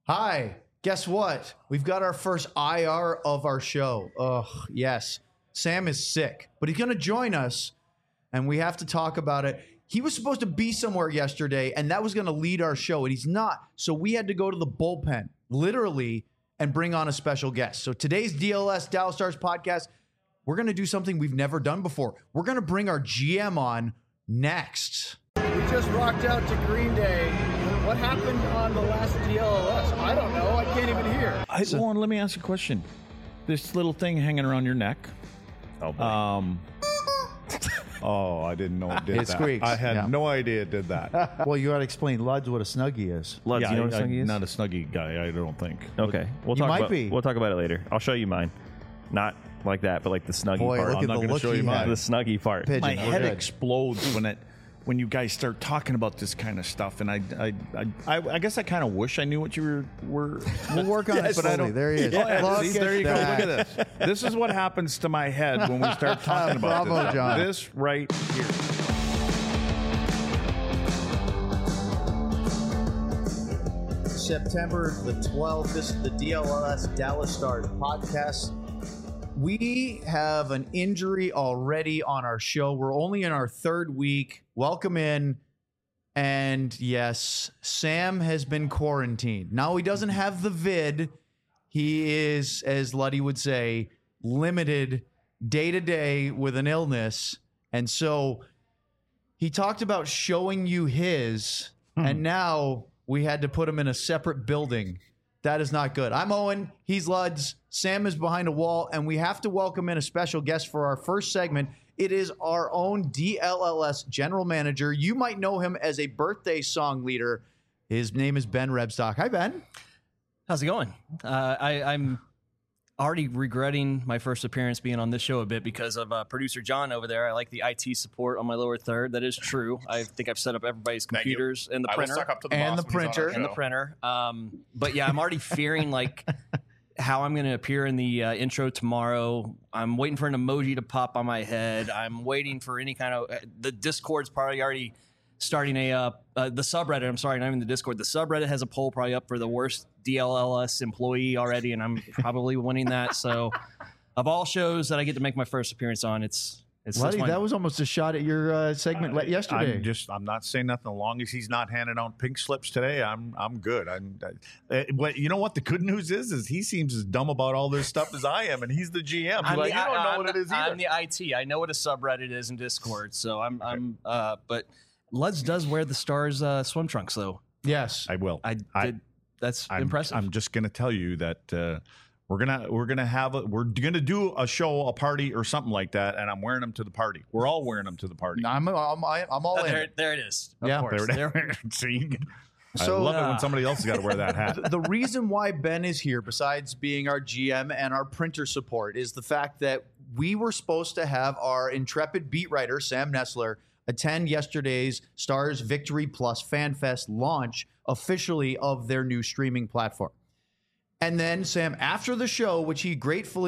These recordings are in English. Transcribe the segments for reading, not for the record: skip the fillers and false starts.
Hi, guess what? We've got our first IR of our show. Ugh, yes. Sam is sick, but he's going to join us, and we have to talk about it. He was supposed to be somewhere yesterday, and that was going to lead our show, and he's not. So we had to go to the bullpen, literally, and bring on a special guest. So today's DLS, Dallas Stars podcast, we're going to do something we've never done before. We're going to bring our GM on next. We just rocked out to Green Day. What happened on the last DLS? I don't know. I can't even hear. Warren, let me ask you a question. This little thing hanging around your neck. Oh, boy. Oh, I didn't know it did It that. squeaks. I had Yeah. no idea it did that. Well, you got to explain, Luds, what a Snuggie is. Luds, Yeah, you know what a Snuggie I'm is? not a Snuggie guy, I don't think. Okay, You might be. We'll talk about it later. I'll show you mine. Not like that, but like the Snuggie Boy, part. look I'm at not the gonna look show he you mine. had. The Snuggie part. Pigeon. My We're head good. explodes when you guys start talking about this kind of stuff, and I guess I kind of wish I knew what you were. We'll work on it, but I slowly. don't. There he is. Yeah, Look see, at there you go. that. Look at this. This is what happens to my head when we start talking about Bravo, this. John. This right here. September the 12th. This is the DLS Dallas Stars podcast. We have an injury already on our show. We're only in our third week. Welcome in. And yes, Sam has been quarantined. Now he doesn't have the vid. He is, as Luddy would say, limited day to day with an illness. And so he talked about showing you his, and now we had to put him in a separate building. That is not good. I'm Owen. He's Luds. Sam is behind a wall, and we have to welcome in a special guest for our first segment. It is our own DLLS general manager. You might know him as a birthday song leader. His name is Ben Rebstock. Hi, Ben. How's it going? I'm already regretting my first appearance being on this show a bit because of producer John over there. I like the IT support on my lower third. That is true. I think I've set up everybody's computers and the I will printer. suck up to the And boss the when he's on printer. our And the show. printer. But yeah, I'm already fearing like how I'm going to appear in the intro tomorrow. I'm waiting for an emoji to pop on my head. I'm waiting for any kind of the Discord's probably already starting the subreddit. I'm sorry, not even the Discord. The subreddit has a poll probably up for the worst DLLS employee already, and I'm probably winning that. So, of all shows that I get to make my first appearance on, it's Luddy, one. that was almost a shot at your segment yesterday. I'm not saying nothing. As long as he's not handing out pink slips today, I'm good. But you know what? The good news is he seems as dumb about all this stuff as I am, and he's the GM. I'm Like, the- you don't know I'm what it the- is either. I'm the IT. I know what a subreddit is in Discord. So but Luds does wear the Stars swim trunks though. Yes. I will. I did. That's I'm, impressive. I'm just going to tell you that we're gonna do a show, a party, or something like that, and I'm wearing them to the party. We're all wearing them to the party. I'm all in. there it is. Of Yeah. course. There it is. See, So, I love it when somebody else has got to wear that hat. The reason why Ben is here, besides being our GM and our printer support, is the fact that we were supposed to have our intrepid beat writer, Sam Nessler, attend yesterday's Stars Victory Plus Fan Fest launch officially of their new streaming platform. And then Sam, after the show, which he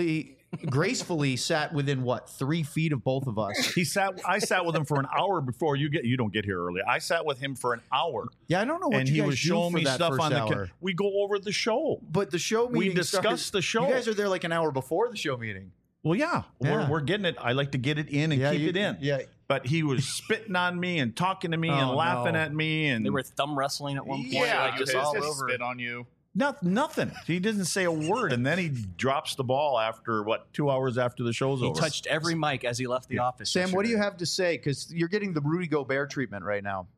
gracefully sat within 3 feet of both of us. I sat with him for an hour before you don't get here early. I sat with him for an hour. Yeah, I don't know what and you he guys was do showing for me that stuff first on the. hour. We go over the show. But the show meeting We discussed started- the show. You guys are there like an hour before the show meeting. Well, yeah, Yeah. We're getting it. I like to get it in and keep it in. Yeah. But he was spitting on me and talking to me and Oh, laughing no. at me, and They were thumb wrestling at one point, Yeah, like just all over. spit on you. nothing. He doesn't say a word, and then he drops the ball after 2 hours after the show's He over. touched every mic as he left the office. Sam, what do you yesterday. have to say? Because you're getting the Rudy Gobert treatment right now.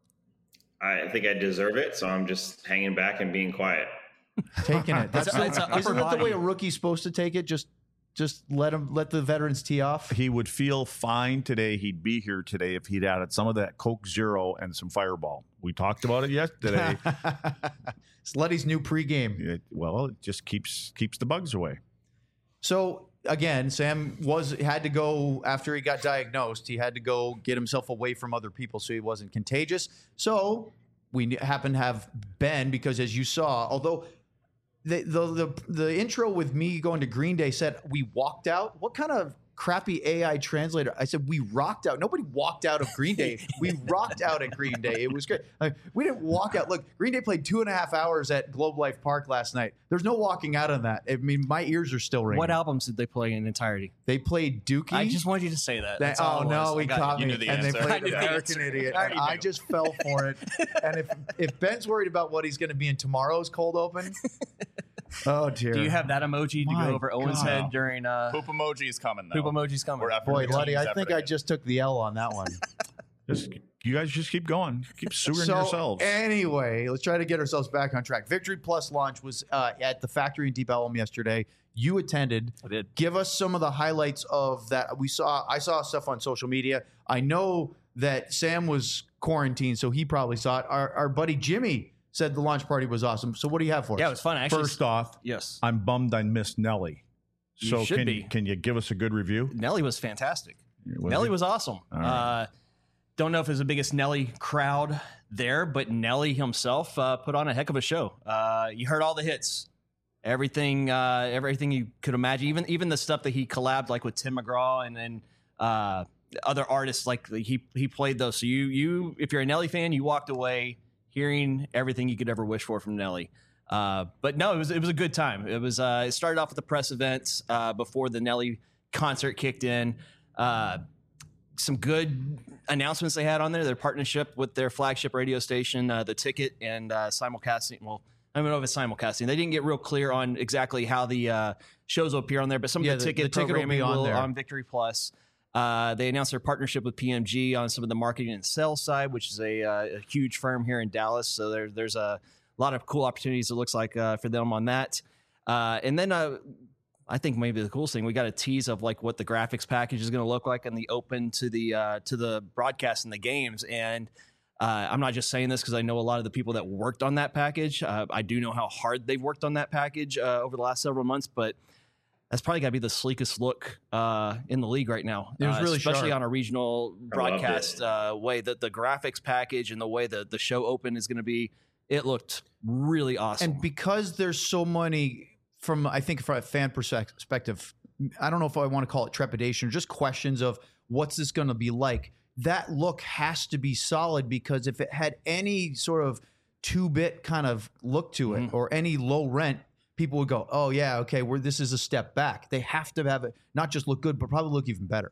I think I deserve it, so I'm just hanging back and being quiet. Taking it. That's It's a upper isn't that the body. way a rookie's supposed to take it? Just let the veterans tee off. He would feel fine today. He'd be here today if he'd added some of that Coke Zero and some Fireball. We talked about it yesterday. It's Letty's new pregame. It just keeps the bugs away. So again, Sam had to go after he got diagnosed. He had to go get himself away from other people so he wasn't contagious. So we happen to have Ben because, as you saw, although the intro with me going to Green Day said we walked out. What kind of crappy AI translator. I said, we rocked out. Nobody walked out of Green Day. We rocked out at Green Day. It was great. We didn't walk out. Look, Green Day played 2.5 hours at Globe Life Park last night. There's no walking out on that. I mean, my ears are still ringing. What albums did they play in entirety? They played Dookie. I just wanted you to say that. That's all oh it was. no, I he got caught you. me. knew the And they answer. played I knew the American answer. Idiot. I And already I knew. just fell for it. And if Ben's worried about what he's going to be in tomorrow's cold open, oh dear. Do you have that emoji to My go over Owen's God. head during Poop emoji is coming though. Poop emoji's coming? We're Boy, efforting. Luddy, I think Efforting I it. just took the L on that one. You guys just keep going. Keep suing So yourselves. anyway, let's try to get ourselves back on track. Victory Plus launch was at the factory in Deep Ellum yesterday. You attended. I did. Give us some of the highlights of that. I saw stuff on social media. I know that Sam was quarantined, so he probably saw it. Our buddy Jimmy said the launch party was awesome. So what do you have for us? Yeah, it was fun. Actually, First off, yes, I'm bummed I missed Nelly. You So should be. can you give us a good review? Nelly was fantastic. Was Nelly he? was awesome. right. Don't know if it was the biggest Nelly crowd there, but Nelly himself put on a heck of a show. You heard all the hits, everything you could imagine, even the stuff that he collabed like with Tim McGraw and other artists. Like he played those. So you if you're a Nelly fan, you walked away hearing everything you could ever wish for from Nelly. But no, it was a good time. It started off with the press events before the Nelly concert kicked in. Some good announcements they had on there. Their partnership with their flagship radio station, The Ticket, and simulcasting. Well, I don't know if it's simulcasting. They didn't get real clear on exactly how the shows will appear on there, but some Yeah, of the the ticket ticket will be programming on will there. on Victory Plus. They announced their partnership with PMG on some of the marketing and sales side, which is a huge firm here in Dallas. So there's a lot of cool opportunities, it looks like, for them on that. And then I think maybe the coolest thing, we got a tease of like what the graphics package is going to look like in the open to the broadcast and the games. And I'm not just saying this because I know a lot of the people that worked on that package. I do know how hard they've worked on that package over the last several months, but that's probably got to be the sleekest look in the league right now. It was really especially sharp. on a regional broadcast way. That the graphics package and the way the show open is going to be, it looked really awesome. And because there's so many, from a fan perspective, I don't know if I want to call it trepidation or just questions of what's this going to be like. That look has to be solid, because if it had any sort of 2-bit kind of look to it or any low rent, people would go, oh yeah, okay, this is a step back. They have to have it not just look good, but probably look even better.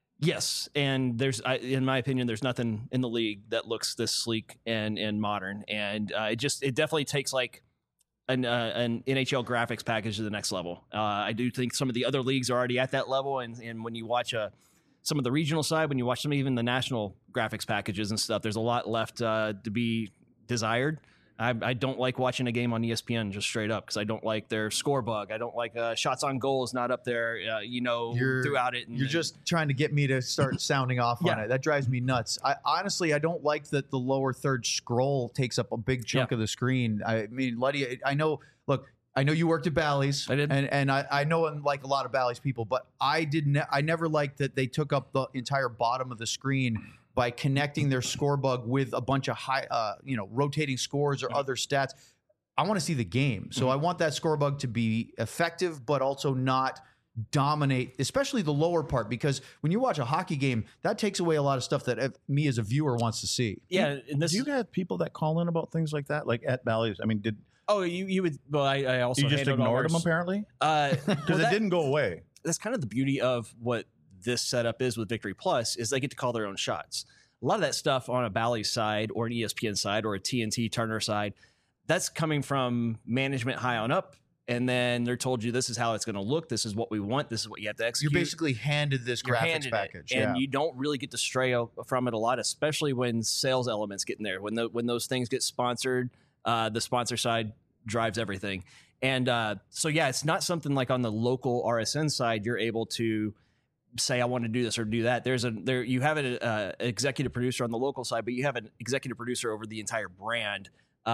Yes, and in my opinion, there's nothing in the league that looks this sleek and modern, and it definitely takes like an NHL graphics package to the next level. I do think some of the other leagues are already at that level, and when you watch some of the regional side, when you watch some even the national graphics packages and stuff, there's a lot left to be desired. I don't like watching a game on ESPN just straight up because I don't like their score bug. I don't like shots on goal is not up there, throughout it. You're just trying to get me to start sounding off on Yeah. it. That drives me nuts. I don't like that the lower third scroll takes up a big chunk of the screen. I mean, Luddy, I know you worked at Bally's. I did. And I know like a lot of Bally's people, but I never liked that they took up the entire bottom of the screen by connecting their score bug with a bunch of high, rotating scores or other stats. I want to see the game. So I want that score bug to be effective, but also not dominate, especially the lower part, because when you watch a hockey game, that takes away a lot of stuff that me as a viewer wants to see. Yeah, and this Do you have people that call in about things like that, like at Bally's? I mean, did you would? Well, I also you just handled all ignored them theirs. apparently? Because It didn't go away. that's kind of the beauty of what this setup is with Victory Plus is they get to call their own shots. A lot of that stuff on a Bally's side or an ESPN side or a TNT Turner side, that's coming from management high on up. And then they're told you this is how it's going to look. This is what we want. This is what you have to execute. You're basically handed this You're graphics handed package. it, and you don't really get to stray from it a lot, especially when sales elements get in there. When those things get sponsored, the sponsor side drives everything. And it's not something like on the local RSN side you're able to say I want to do this or do that. You have an executive producer on the local side, but you have an executive producer over the entire brand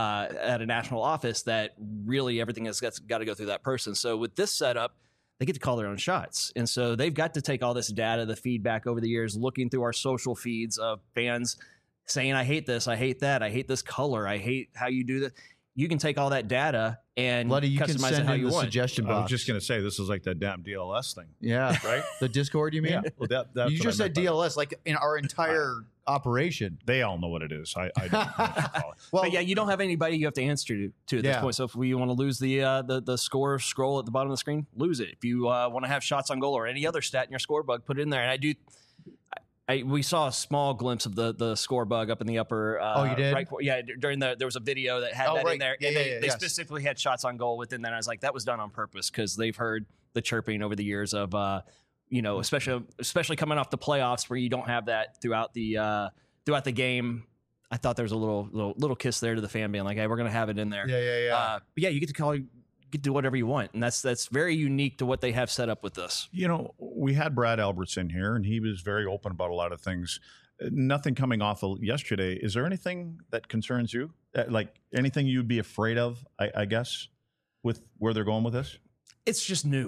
at a national office that really everything has got to go through that person. So with this setup, they get to call their own shots. And so they've got to take all this data, the feedback over the years, looking through our social feeds of fans saying, I hate this, I hate that, I hate this color, I hate how you do that. you can take all that data and Bloody, you can customize it send how in you the want. suggestion I box. was just going to say this is like that damn DLS thing, yeah. right? The Discord, you mean? Yeah. Well, that's You what just I said meant by that. DLS, like in our entire operation. They all know what it is. I don't know what you call it. Well, But yeah, you don't have anybody you have to answer to at this Yeah. point. So if we want to lose the score scroll at the bottom of the screen, lose it. If you want to have shots on goal or any other stat in your score bug, put it in there. And we saw a small glimpse of the score bug up in the upper. Oh, you did? Right, during there was a video that had Oh, that right. in there, Yeah, and yeah, they yes. specifically had shots on goal within that. And I was like, that was done on purpose because they've heard the chirping over the years of especially coming off the playoffs where you don't have that throughout the game. I thought there was a little kiss there to the fan being like, hey, we're gonna have it in there. Yeah. But yeah, you get to do whatever you want, and that's very unique to what they have set up with this. You know, we had Brad Alberts in here, and he was very open about a lot of things. Nothing coming off of yesterday. Is there anything that concerns you? Like anything you'd be afraid of, I guess, with where they're going with this? It's just new.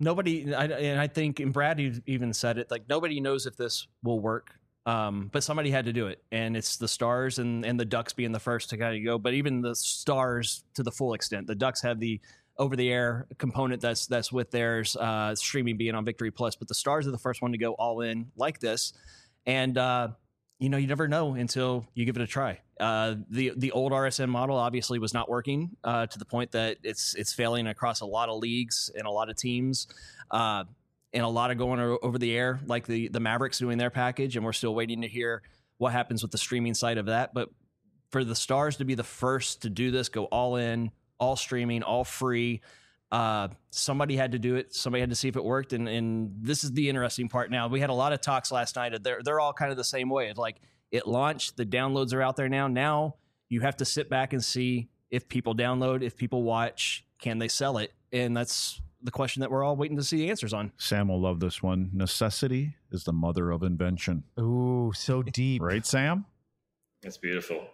I think, and Brad even said it, like nobody knows if this will work. But somebody had to do it, and it's the Stars and the Ducks being the first to kind of go. But even the Stars to the full extent, the Ducks have the over-the-air component that's with theirs, streaming being on Victory Plus. But the Stars are the first one to go all in like this, and you never know until you give it a try. The old RSN model obviously was not working to the point that it's failing across a lot of leagues and a lot of teams. And a lot of going over the air, like the Mavericks doing their package, and we're still waiting to hear what happens with the streaming side of that. But for the Stars to be the first to do this, go all in, all streaming, all free, somebody had to do it. Somebody had to see if it worked. And this is the interesting part now. We had a lot of talks last night. They're all kind of the same way. It's like it launched, the downloads are out there now. Now you have to sit back and see if people download, if people watch, can they sell it? And that's the question that we're all waiting to see answers on. Sam will love this one. Necessity is the mother of invention. Ooh, so deep. Right, Sam? That's beautiful.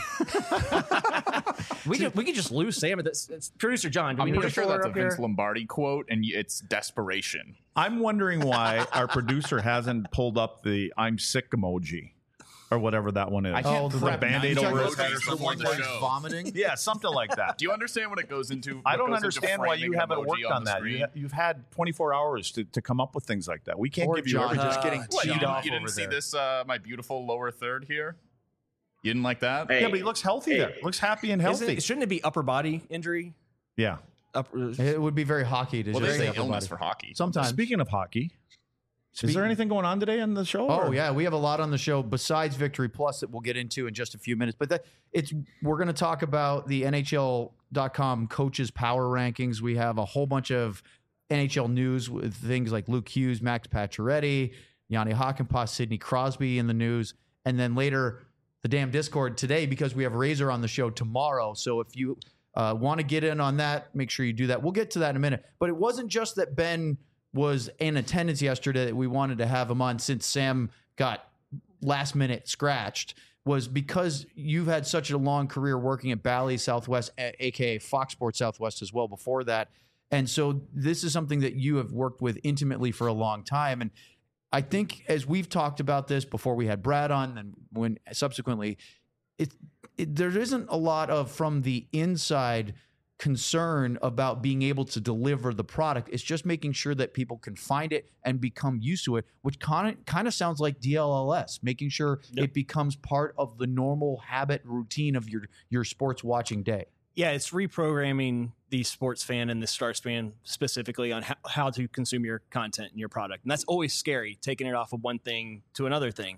We could just lose Sam. It's producer John. Do we I'm need pretty a sure that's a up here? Vince Lombardi quote, and it's desperation. I'm wondering why our producer hasn't pulled up the I'm sick emoji or whatever that one is. I can't the prep Band-Aid nine over his emojis head or before something like the that. show. Vomiting. Yeah, something like that. Do you understand what it goes into? I what don't goes into understand why framing you an haven't emoji worked on the that. screen? You've had 24 hours to come up with things like that. We can't Or give you John everything. just getting What, you teed off didn't over see there. this? My beautiful lower third here. You didn't like that? Hey, Yeah, but he looks healthy there. Looks happy and healthy. Shouldn't it be upper body injury? Yeah. It would be very hockey to Well, just they say say upper illness body. for hockey. Sometimes. Speaking of hockey, is there anything going on today on the show? Oh or- yeah, we have a lot on the show besides Victory Plus that we'll get into in just a few minutes. But we're going to talk about the NHL.com coaches power rankings. We have a whole bunch of NHL news with things like Luke Hughes, Max Pacioretty, Yanni Hakanpää, Sidney Crosby in the news, and then later the damn Discord today because we have Razor on the show tomorrow. So if you want to get in on that, make sure you do that. We'll get to that in a minute. But it wasn't just that Ben was in attendance yesterday that we wanted to have him on since Sam got last minute scratched, was because you've had such a long career working at Bally Southwest, aka Fox Sports Southwest as well before that. And so this is something that you have worked with intimately for a long time. And I think as we've talked about this before we had Brad on and when subsequently, there isn't a lot of from the inside concern about being able to deliver the product. It's just making sure that people can find it and become used to it, which kind of sounds like DLLS, making sure it becomes part of the normal habit routine of your sports watching day. Yeah, it's reprogramming the sports fan and the Stars fan specifically on how to consume your content and your product. And that's always scary, taking it off of one thing to another thing.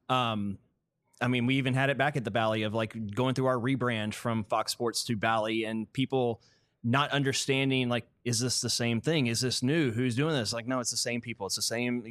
I mean, we even had it back at the Bally of like going through our rebrand from Fox Sports to Bally and people not understanding, like, is this the same thing? Is this new? Who's doing this? Like, no, it's the same people. It's the same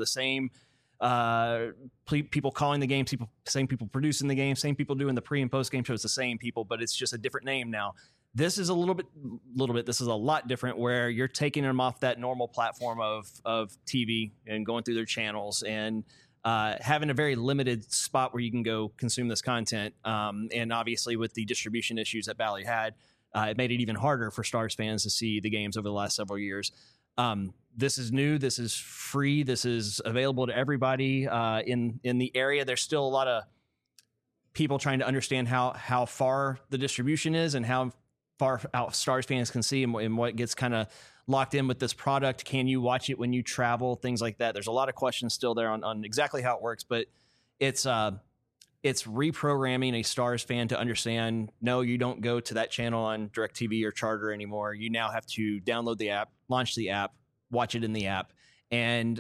people calling the games, same people producing the game, same people doing the pre and post game shows, the same people, but it's just a different name now. This is a little bit, this is a lot different where you're taking them off that normal platform of TV and going through their channels and having a very limited spot where you can go consume this content. And obviously with the distribution issues that Bally had, it made it even harder for Stars fans to see the games over the last several years. This is new. This is free. This is available to everybody in the area. There's still a lot of people trying to understand how far the distribution is and how far out Stars fans can see and what gets kind of locked in with this product. Can you watch it when you travel? Things like that. There's a lot of questions still there on exactly how it works, but it's reprogramming a Stars fan to understand, no, you don't go to that channel on DirecTV or Charter anymore. You now have to download the app, launch the app, watch it in the app. And,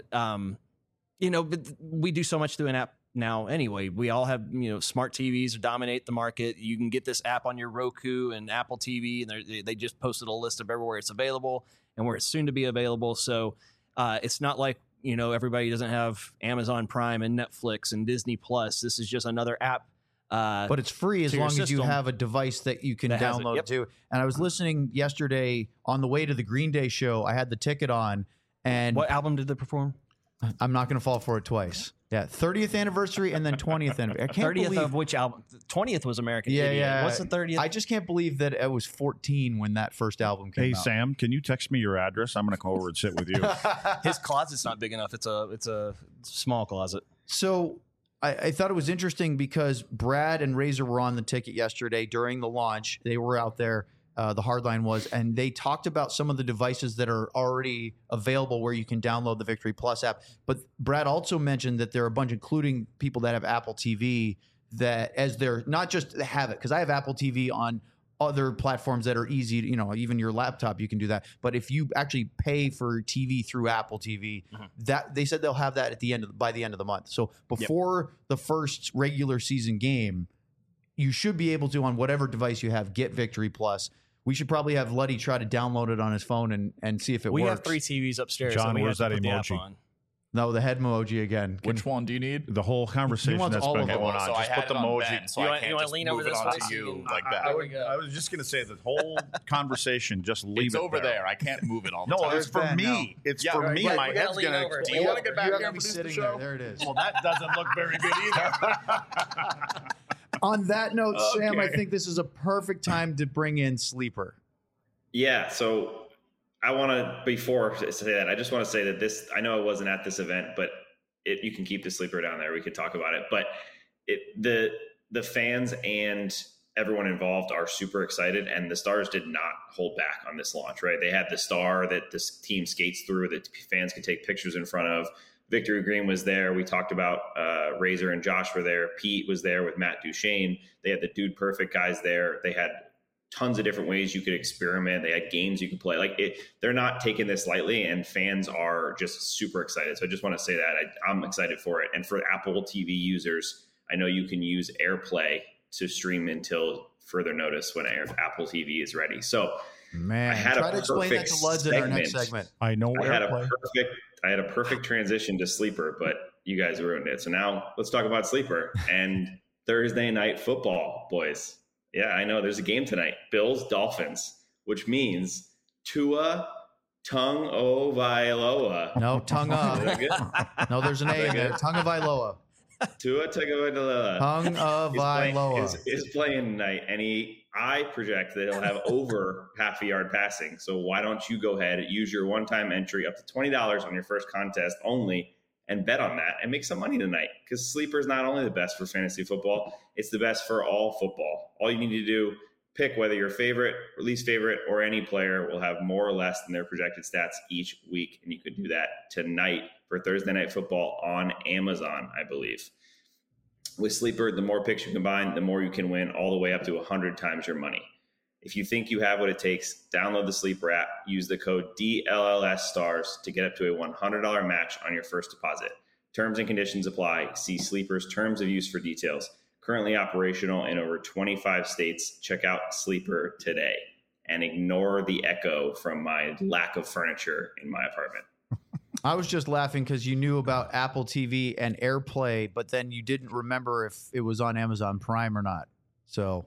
but we do so much through an app now anyway. We all have, smart TVs dominate the market. You can get this app on your Roku and Apple TV, and they just posted a list of everywhere it's available and where it's soon to be available. So it's not like, everybody doesn't have Amazon Prime and Netflix and Disney Plus. This is just another app. But it's free as long as you have a device that you can download too. And I was listening yesterday on the way to the Green Day show. I had the ticket on. And what album did they perform? I'm not going to fall for it twice. Yeah, 30th anniversary and then 20th anniversary. I can't 30th believe of which album? 20th was American Idiot. Yeah. What's the 30th? I just can't believe that it was 14 when that first album came out. Hey, Sam, can you text me your address? I'm going to come over and sit with you. His closet's not big enough. It's a small closet. So I thought it was interesting because Brad and Razor were on the ticket yesterday during the launch. They were out there. The Hardline was, and they talked about some of the devices that are already available where you can download the Victory Plus app. But Brad also mentioned that there are a bunch, including people that have Apple TV, that as they're not just have it, because I have Apple TV on other platforms that are easy, even your laptop, you can do that. But if you actually pay for TV through Apple TV, that they said they'll have that by the end of the month. So before the first regular season game, you should be able to, on whatever device you have, get Victory Plus. We should probably have Luddy try to download it on his phone and see if it works. We have 3 TVs upstairs. John, that we where's have to that put the app emoji? on. No, the head emoji again. Which one do you need? The whole conversation wants that's all been of them. going on. So I Just had put the it on emoji. Ben, so You I want- can't you wanna just lean move over it this on way to so you you can- like that. I was just going to say the whole conversation, just leave It's it over there. I can't move it all the No, time. it's for Ben, me. no. It's Yeah, for right, me. right. My We gotta head's lean going over. to Do you want to get back You're here gonna and be produce the sitting show? there. There it is. Well, that doesn't look very good either. On that note, Sam, I Okay. think this is a perfect time to bring in Sleeper. Yeah, so I want to, before I say that, I just want to say that this, I know I wasn't at this event, but you can keep the sleeper down there. We could talk about it, but the fans and everyone involved are super excited, and the Stars did not hold back on this launch, right? They had the star that this team skates through that fans could take pictures in front of. Victory Green was there. We talked about Razor and Josh were there. Pete was there with Matt Duchene. They had the Dude Perfect guys there. They had tons of different ways you could experiment. They had games you could play. They're not taking this lightly, and fans are just super excited. So I just want to say that I'm excited for it. And for Apple TV users, I know you can use AirPlay to stream until further notice when Apple TV is ready. So Man, I had try a to explain that to perfect Luds in our next segment. segment. I know I had AirPlay. a perfect transition to Sleeper, but you guys ruined it. So now let's talk about Sleeper and Thursday night football, boys. Yeah, I know there's a game tonight. Bills, Dolphins, which means Tua Tagovailoa. No, tongue up. Is that good? No, there's an A in there. Tongue of Iloa. Tua Tagovailoa. Tongue of Iloa. is playing tonight, and I project that he'll have over half a yard passing. So why don't you go ahead and use your one-time entry up to $20 on your first contest only and bet on that and make some money tonight, because Sleeper is not only the best for fantasy football, it's the best for all football. All you need to do, pick whether your favorite or least favorite or any player will have more or less than their projected stats each week. And you could do that tonight for Thursday Night Football on Amazon, I believe. With Sleeper, the more picks you combine, the more you can win, all the way up to 100 times your money. If you think you have what it takes, download the Sleeper app, use the code DLLSSTARS to get up to a $100 match on your first deposit. Terms and conditions apply. See Sleeper's terms of use for details. Currently operational in over 25 states. Check out Sleeper today and ignore the echo from my lack of furniture in my apartment. I was just laughing because you knew about Apple TV and AirPlay, but then you didn't remember if it was on Amazon Prime or not. So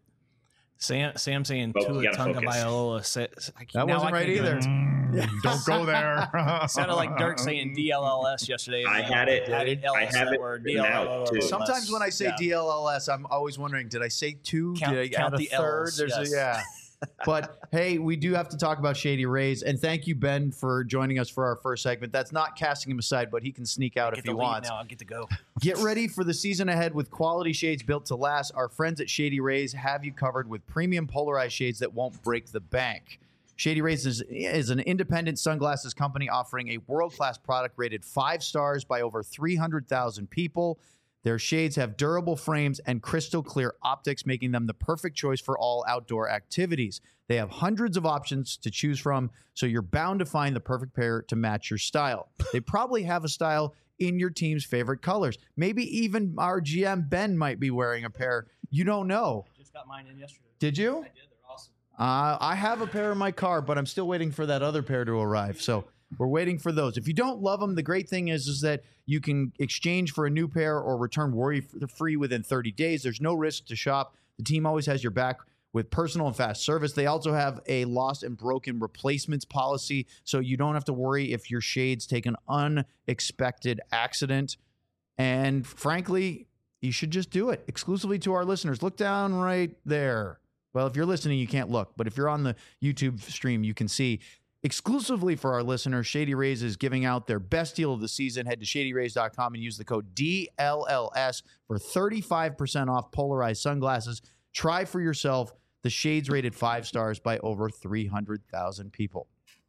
Sam saying Well, Tua we gotta focus. Tagovailoa. that wasn't right either. Don't go there. Sounded like Dirk saying DLLS yesterday. I had it. Added I LS have that it word, written out, DLLS. too. Sometimes when I say Yeah. DLLS, I'm always wondering, did I say two? Count- did I count add a the third? Ls, There's yes. But hey, we do have to talk about Shady Rays, and thank you, Ben, for joining us for our first segment. That's not casting him aside, but he can sneak out if he wants. Now I get to go. Get ready for the season ahead with quality shades built to last. Our friends at Shady Rays have you covered with premium polarized shades that won't break the bank. Shady Rays is an independent sunglasses company offering a world-class product rated 5 stars by over 300,000 people. Their shades have durable frames and crystal clear optics, making them the perfect choice for all outdoor activities. They have hundreds of options to choose from, so you're bound to find the perfect pair to match your style. They probably have a style in your team's favorite colors. Maybe even our GM, Ben, might be wearing a pair. You don't know. Just got mine in yesterday. Did you? I did. They're awesome. I have a pair in my car, but I'm still waiting for that other pair to arrive. So we're waiting for those. If you don't love them, the great thing is that you can exchange for a new pair or return worry-free within 30 days. There's no risk to shop. The team always has your back with personal and fast service. They also have a lost and broken replacements policy, so you don't have to worry if your shades take an unexpected accident. And frankly, you should just do it exclusively to our listeners. Look down right there. Well, if you're listening, you can't look, but if you're on the YouTube stream, you can see. Exclusively for our listeners, Shady Rays is giving out their best deal of the season. Head to shadyrays.com and use the code DLLS for 35% off polarized sunglasses. Try for yourself the shades rated 5 stars by over 300,000 people.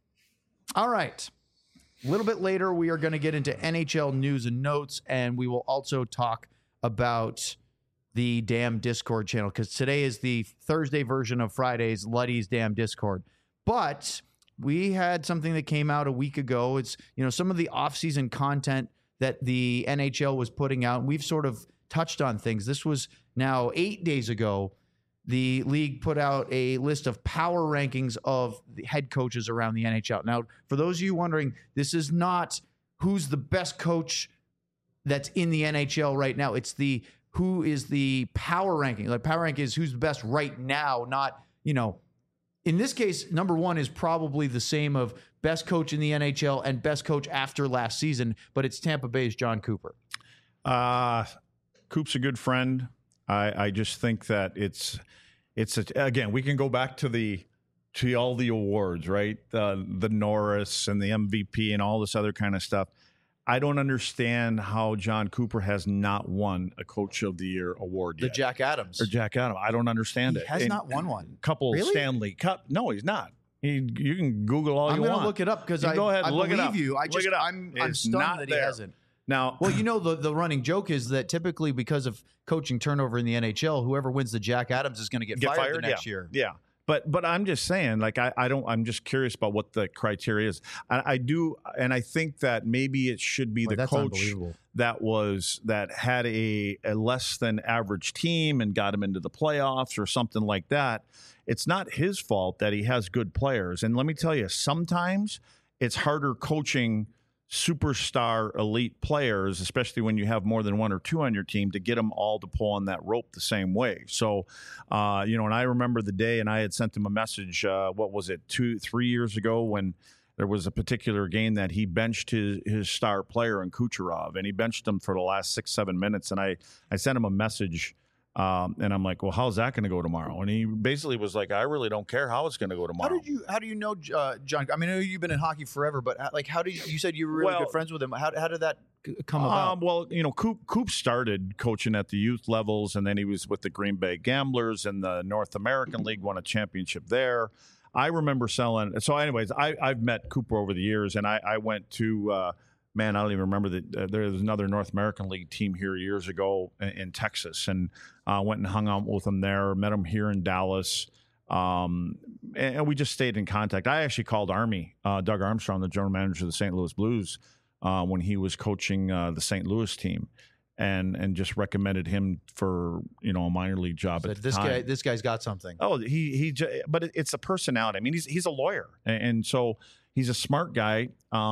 All right. A little bit later, we are going to get into NHL news and notes, and we will also talk about the damn Discord channel, because today is the Thursday version of Friday's Luddy's damn Discord. But we had something that came out a week ago. It's, some of the off-season content that the NHL was putting out. We've sort of touched on things. This was now 8 days ago. The league put out a list of power rankings of the head coaches around the NHL. Now, for those of you wondering, this is not who's the best coach that's in the NHL right now. It's who is the power ranking. Like, power rank is who's the best right now, not, in this case, number one is probably the same of best coach in the NHL and best coach after last season, but it's Tampa Bay's John Cooper. Coop's a good friend. I just think that again, we can go back to all the awards, right? The Norris and the MVP and all this other kind of stuff. I don't understand how John Cooper has not won a Coach of the Year award yet. Jack Adams. Or Jack Adams. I don't understand it. He has not won one. Couple Really? Stanley Cup. No, he's not. You can Google all I'm you going want. to look it up because go ahead, I look it believe up. you. Look it up. I'm It's stunned not that there. he hasn't. Now, Well, the running joke is that typically because of coaching turnover in the NHL, whoever wins the Jack Adams is going to get fired the next year. Yeah. But I'm just saying, like, I'm just curious about what the criteria is. I do, and I think that maybe it should be the That's coach unbelievable. that had a less than average team and got him into the playoffs or something like that. It's not his fault that he has good players. And let me tell you, sometimes it's harder coaching superstar elite players, especially when you have more than one or two on your team, to get them all to pull on that rope the same way. So, and I remember the day, and I had sent him a message, 2-3 years ago, when there was a particular game that he benched his star player in Kucherov, and he benched him for the last 6-7 minutes. And I sent him a message, and I'm like, well, how's that going to go tomorrow? And he basically was like, I really don't care how it's going to go tomorrow. How do you know John? I mean, I know you've been in hockey forever, but how did you said you were really good friends with him? How did that come about? Well, Coop started coaching at the youth levels, and then he was with the Green Bay Gamblers in the North American League, won a championship there. I remember selling. So, anyways, I've met Cooper over the years, and I went to. I don't even remember that there was another North American League team here years ago in Texas, and went and hung out with him there. Met him here in Dallas, and we just stayed in contact. I actually called Doug Armstrong, the general manager of the St. Louis Blues, when he was coaching the St. Louis team, and just recommended him for a minor league job at the time. This guy's got something. Oh, but it's a personality. I mean, he's a lawyer, and so he's a smart guy.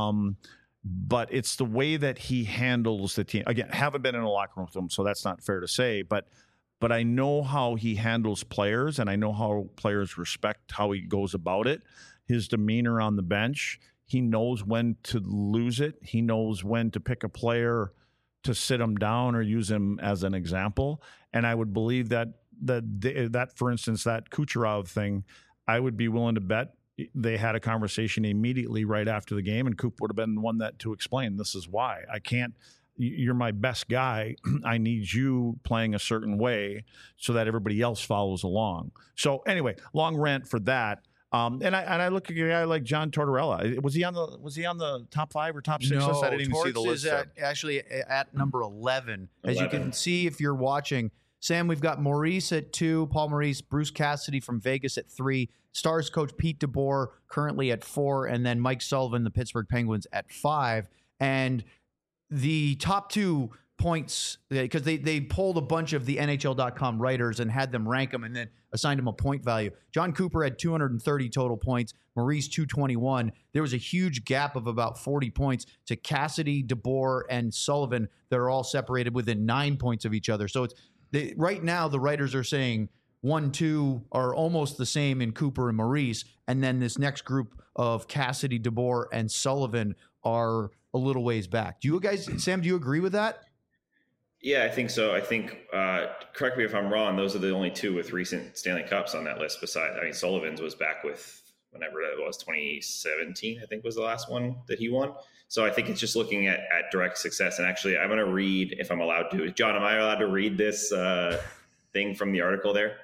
But it's the way that he handles the team. Again, haven't been in a locker room with him, so that's not fair to say. But I know how he handles players, and I know how players respect how he goes about it. His demeanor on the bench, he knows when to lose it. He knows when to pick a player to sit him down or use him as an example. And I would believe that, for instance, that Kucherov thing, I would be willing to bet they had a conversation immediately right after the game, and Coop would have been the one to explain, this is why. I can't, you're my best guy. I need you playing a certain way so that everybody else follows along. So anyway, long rant for that. And I look at a guy like John Tortorella. Was he on the top 5 or top 6 list? I didn't even see the list. Is actually at number 11. As you can see if you're watching. Sam, we've got Maurice at 2, Paul Maurice, Bruce Cassidy from Vegas at 3, Stars coach Pete DeBoer currently at 4, and then Mike Sullivan, the Pittsburgh Penguins, at 5. And the top 2 points, because they polled a bunch of the NHL.com writers and had them rank them and then assigned them a point value. John Cooper had 230 total points, Maurice 221. There was a huge gap of about 40 points to Cassidy, DeBoer, and Sullivan that are all separated within 9 points of each other. So it's right now the writers are saying 1, 2 are almost the same in Cooper and Maurice, and then this next group of Cassidy, DeBoer, and Sullivan are a little ways back. Do you guys, Sam, do you agree with that? Yeah, I think so. I think, correct me if I'm wrong, those are the only 2 with recent Stanley Cups on that list. Besides, I mean, Sullivan's was back with whenever that was, 2017, I think was the last one that he won. So I think it's just looking at direct success. And actually, I'm going to read, if I'm allowed to. John, am I allowed to read this thing from the article there?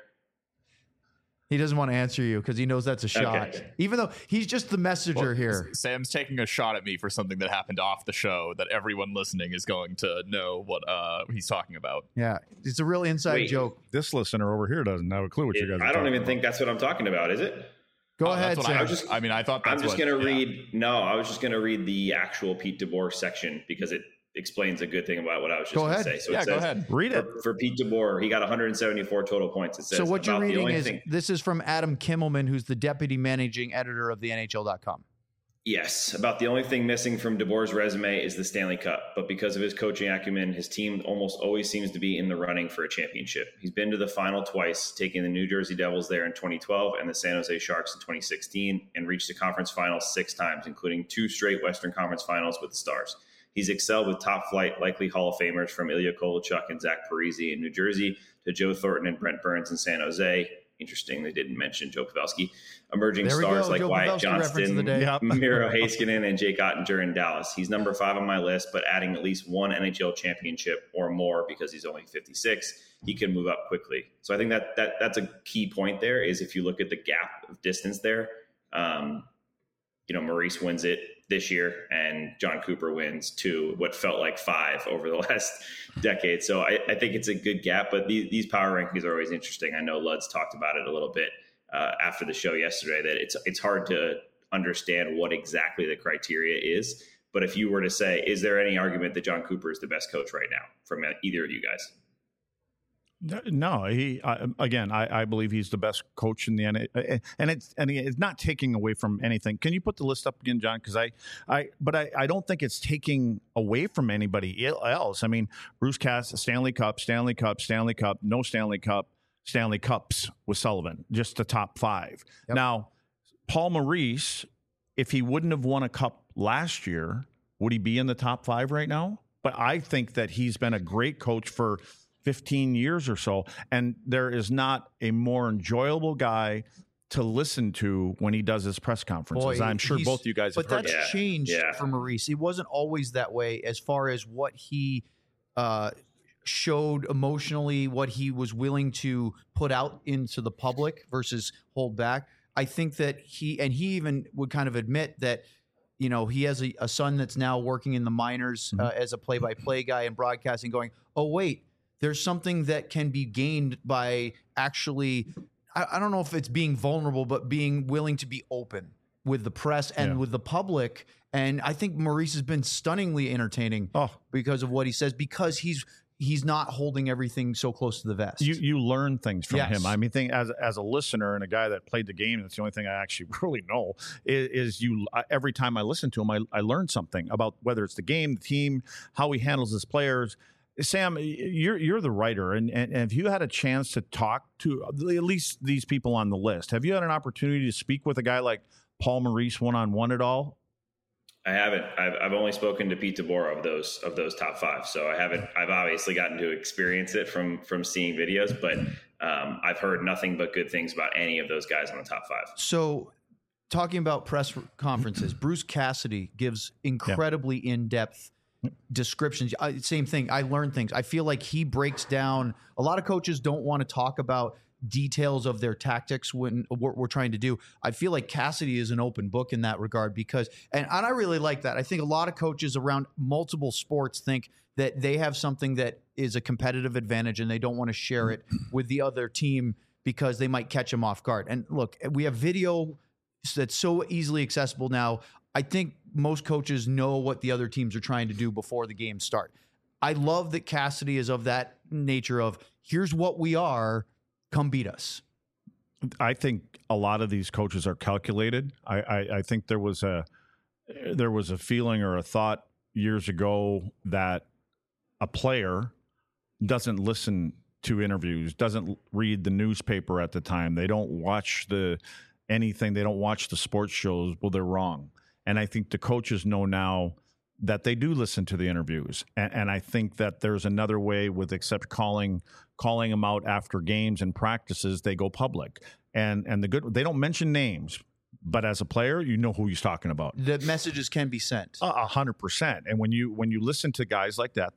He doesn't want to answer you because he knows that's a shot. Okay. Even though he's just the messenger here. Sam's taking a shot at me for something that happened off the show that everyone listening is going to know what he's talking about. Yeah, it's a real inside joke. This listener over here doesn't have a clue what you guys are I don't even about. think that's what I'm talking about, is it? Go ahead, Sam. I thought that's I'm just going to read. No, I was just going to read the actual Pete DeBoer section because it explains a good thing about what I was just going to say. So go ahead. Read it. For Pete DeBoer, he got 174 total points. It says, so what you're about the reading only is thing, this is from Adam Kimmelman, who's the deputy managing editor of the NHL.com. yes, about the only thing missing from DeBoer's resume is the Stanley Cup. But because of his coaching acumen, his team almost always seems to be in the running for a championship. He's been to the final twice, taking the New Jersey Devils there in 2012 and the San Jose Sharks in 2016, and reached the conference finals 6 times, including 2 straight Western Conference finals with the Stars. He's excelled with top-flight, likely Hall of Famers from Ilya Kovalchuk and Zach Parise in New Jersey to Joe Thornton and Brent Burns in San Jose. Interesting, they didn't mention Joe Pavelski. Emerging stars like Joe Wyatt Pavelski Johnston, Yep. Miro Heiskanen, and Jake Ottinger in Dallas. He's number 5 on my list, but adding at least 1 NHL championship or more because he's only 56, he can move up quickly. So I think that's a key point there is if you look at the gap of distance there, Maurice wins it this year and John Cooper wins 2, what felt like 5 over the last decade. So I think it's a good gap, but these power rankings are always interesting. I know Lud's talked about it a little bit after the show yesterday, that it's hard to understand what exactly the criteria is. But if you were to say, is there any argument that John Cooper is the best coach right now from either of you guys? No, I believe he's the best coach in the NHL, and it's not taking away from anything. Can you put the list up again, John? Because I don't think it's taking away from anybody else. I mean, Bruce Cass, Stanley Cup, no Stanley Cup, Stanley Cups with Sullivan, just the top 5. Yep. Now, Paul Maurice, if he wouldn't have won a cup last year, would he be in the top 5 right now? But I think that he's been a great coach for 15 years or so, and there is not a more enjoyable guy to listen to when he does his press conferences. I'm sure both you guys have heard. But that's changed for Maurice. It wasn't always that way as far as what he showed emotionally, what he was willing to put out into the public versus hold back. I think that he even would kind of admit that, he has a son that's now working in the minors as a play-by-play guy and broadcasting, going, oh, wait, there's something that can be gained by actually, I don't know if it's being vulnerable, but being willing to be open with the press and with the public. And I think Maurice has been stunningly entertaining because of what he says, because he's not holding everything so close to the vest. You learn things from him. I mean, as a listener and a guy that played the game, that's the only thing I actually really know is every time I listen to him, I learn something about whether it's the game, the team, how he handles his players. Sam, you're the writer, and if you had a chance to talk to at least these people on the list, have you had an opportunity to speak with a guy like Paul Maurice one-on-one at all? I haven't. I've only spoken to Pete DeBoer of those top 5, so I haven't. I've obviously gotten to experience it from seeing videos, but I've heard nothing but good things about any of those guys on the top 5. So, talking about press conferences, Bruce Cassidy gives incredibly in-depth descriptions. Same thing. I learned things. I feel like he breaks down. A lot of coaches don't want to talk about details of their tactics when what we're trying to do. I feel like Cassidy is an open book in that regard because, and I really like that. I think a lot of coaches around multiple sports think that they have something that is a competitive advantage and they don't want to share it with the other team because they might catch them off guard. And look, we have video that's so easily accessible now. I think most coaches know what the other teams are trying to do before the games start. I love that Cassidy is of that nature of here's what we are, come beat us. I think a lot of these coaches are calculated. I think there was a feeling or a thought years ago that a player doesn't listen to interviews, doesn't read the newspaper at the time. They don't watch anything. They don't watch the sports shows. Well, they're wrong. And I think the coaches know now that they do listen to the interviews. And I think that there's another way with except calling them out after games and practices, they go public. And they don't mention names, but as a player, you know who he's talking about. The messages can be sent. 100%. And when you listen to guys like that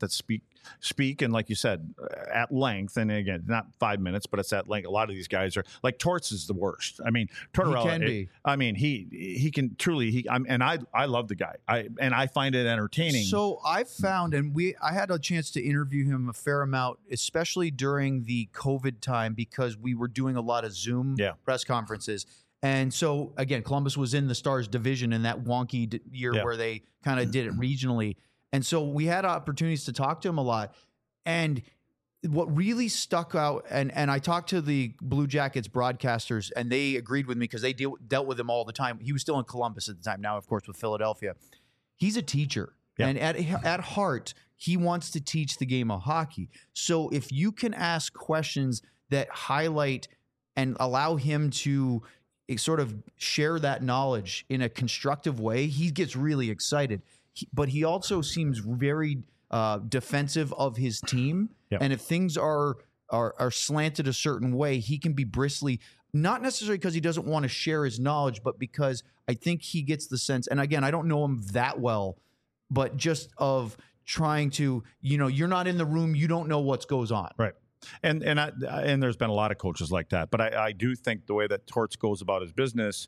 speak and like you said at length, and again not 5 minutes, but it's at length. A lot of these guys are like Torts is the worst. I mean, Tortorella, he can be. I mean, he can truly. I love the guy. I find it entertaining. So I found, and I had a chance to interview him a fair amount, especially during the COVID time because we were doing a lot of Zoom press conferences. And so, again, Columbus was in the Stars division in that wonky year where they kind of did it regionally. And so we had opportunities to talk to him a lot. And what really stuck out, and I talked to the Blue Jackets broadcasters, and they agreed with me because they dealt with him all the time. He was still in Columbus at the time, now, of course, with Philadelphia. He's a teacher. Yeah. And at heart, he wants to teach the game of hockey. So if you can ask questions that highlight and allow him to sort of share that knowledge in a constructive way, he gets really excited. But he also seems very defensive of his team. Yep. And if things are slanted a certain way, he can be bristly, not necessarily because he doesn't want to share his knowledge, but because I think he gets the sense, and again, I don't know him that well, but just of trying to, you're not in the room, you don't know what goes on. Right. And there's been a lot of coaches like that, but I do think the way that Torts goes about his business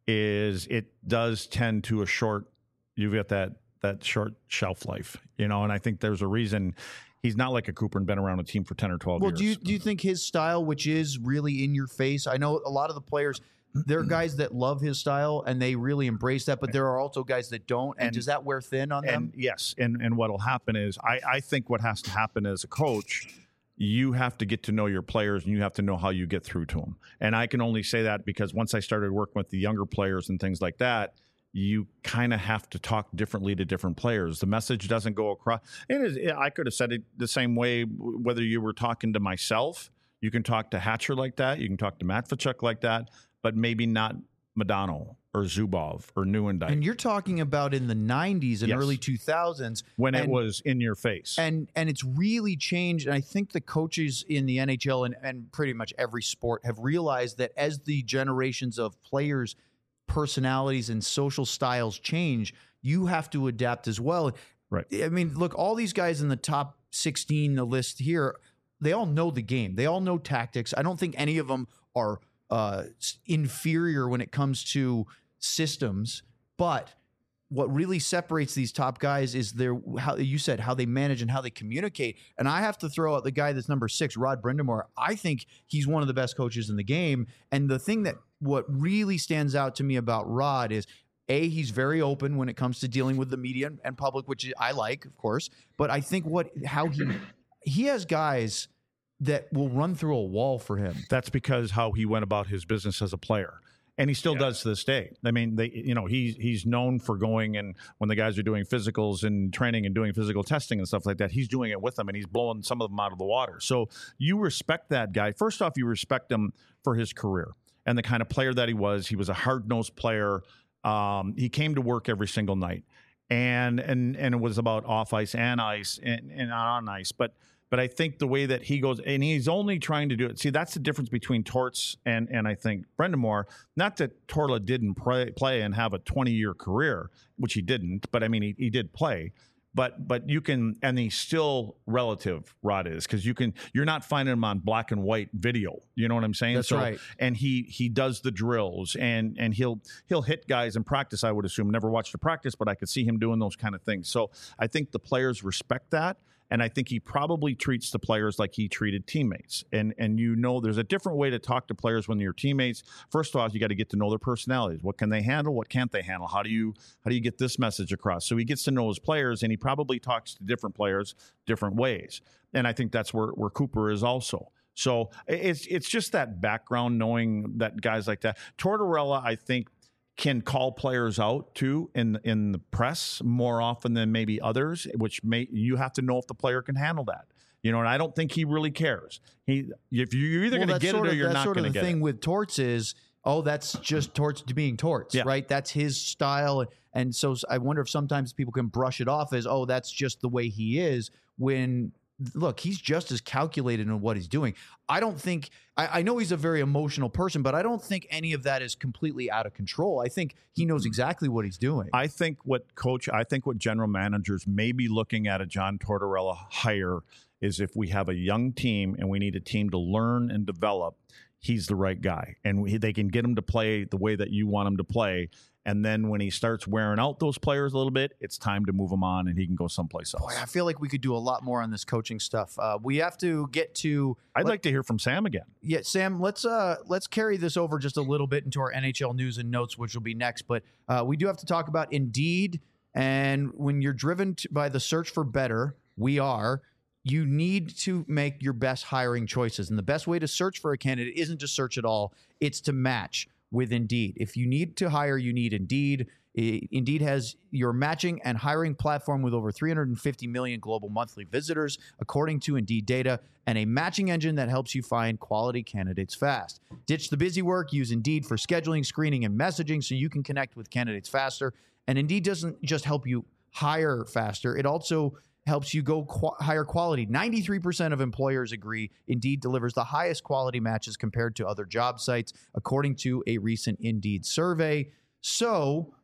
is it does tend to you've got that short shelf life, and I think there's a reason he's not like a Cooper and been around a team for 10 or 12 years. Well, do you think his style, which is really in your face, I know a lot of the players, there are guys that love his style and they really embrace that, but there are also guys that don't. And does that wear thin on them? Yes. And what'll happen is I think what has to happen as a coach, you have to get to know your players and you have to know how you get through to them. And I can only say that because once I started working with the younger players and things like that, you kind of have to talk differently to different players. The message doesn't go across. I could have said it the same way, whether you were talking to myself, you can talk to Hatcher like that, you can talk to Matvichuk like that, but maybe not Modano or Zubov or Neuendijk. And you're talking about in the 90s and early 2000s. When it was in your face. And it's really changed. And I think the coaches in the NHL and pretty much every sport have realized that as the generations of players' personalities and social styles change, you have to adapt as well. Right. I mean, look, all these guys in the top 16, the list here, they all know the game. They all know tactics. I don't think any of them are inferior when it comes to systems, but what really separates these top guys is how they manage and how they communicate. And I have to throw out the guy that's number 6, Rod Brind'Amour. I think he's one of the best coaches in the game. And the thing what really stands out to me about Rod is he's very open when it comes to dealing with the media and public, which I like, of course. But I think how he has guys that will run through a wall for him. That's because how he went about his business as a player. And he still does to this day. I mean, he's known for going and when the guys are doing physicals and training and doing physical testing and stuff like that, he's doing it with them and he's blowing some of them out of the water. So you respect that guy. First off, you respect him for his career and the kind of player that he was. He was a hard-nosed player. He came to work every single night, and it was about off ice and ice and on ice. But But I think the way that he goes, and he's only trying to do it. See, that's the difference between Torts and I think Brendan Moore. Not that Torla didn't play and have a 20-year career, which he didn't, but I mean, he did play. But you can, and he's still relative, Rod is, because you're not finding him on black and white video. You know what I'm saying? That's right. And he does the drills, and he'll hit guys in practice. I would assume, never watched a practice, but I could see him doing those kind of things. So I think the players respect that. And I think he probably treats the players like he treated teammates. And there's a different way to talk to players when you're teammates. First of all, you got to get to know their personalities. What can they handle? What can't they handle? How do you get this message across? So he gets to know his players, and he probably talks to different players different ways. And I think that's where Cooper is also. So it's just that background, knowing that guys like that. Tortorella, I think, can call players out too in the press more often than maybe others, which you have to know if the player can handle that. And I don't think he really cares. If you're either going to get it or you're not going to get it. That's sort of the thing with Torts is, that's just Torts being Torts, right? That's his style. And so I wonder if sometimes people can brush it off as, that's just the way he is, when look, he's just as calculated in what he's doing. I don't think, I know he's a very emotional person, but I don't think any of that is completely out of control. I think he knows exactly what he's doing. I think what general managers may be looking at a John Tortorella hire is, if we have a young team and we need a team to learn and develop, he's the right guy. And they can get him to play the way that you want him to play. And then when he starts wearing out those players a little bit, it's time to move him on, and he can go someplace else. Boy, I feel like we could do a lot more on this coaching stuff. We have to get to. I'd like to hear from Sam again. Yeah, Sam, let's carry this over just a little bit into our NHL news and notes, which will be next. But we do have to talk about Indeed. And when you're driven by the search for better, you need to make your best hiring choices. And the best way to search for a candidate isn't to search at all. It's to match with Indeed. If you need to hire, you need Indeed. Indeed has your matching and hiring platform with over 350 million global monthly visitors, according to Indeed data, and a matching engine that helps you find quality candidates fast. Ditch the busy work. Use Indeed for scheduling, screening, and messaging so you can connect with candidates faster. And Indeed doesn't just help you hire faster. It also helps you go higher quality. 93% of employers agree Indeed delivers the highest quality matches compared to other job sites, according to a recent Indeed survey. So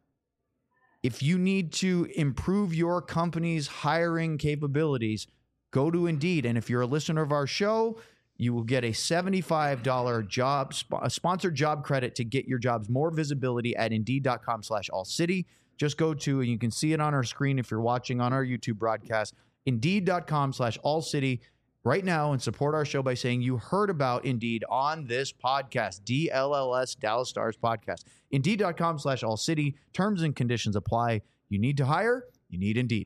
if you need to improve your company's hiring capabilities, go to Indeed. And if you're a listener of our show, you will get a $75 sponsored job credit to get your jobs more visibility at Indeed.com/allcity. Just go to, and you can see it on our screen if you're watching on our YouTube broadcast, Indeed.com/allcity right now, and support our show by saying you heard about Indeed on this podcast, DLLS Dallas Stars podcast. Indeed.com/allcity. Terms and conditions apply. You need to hire, you need Indeed.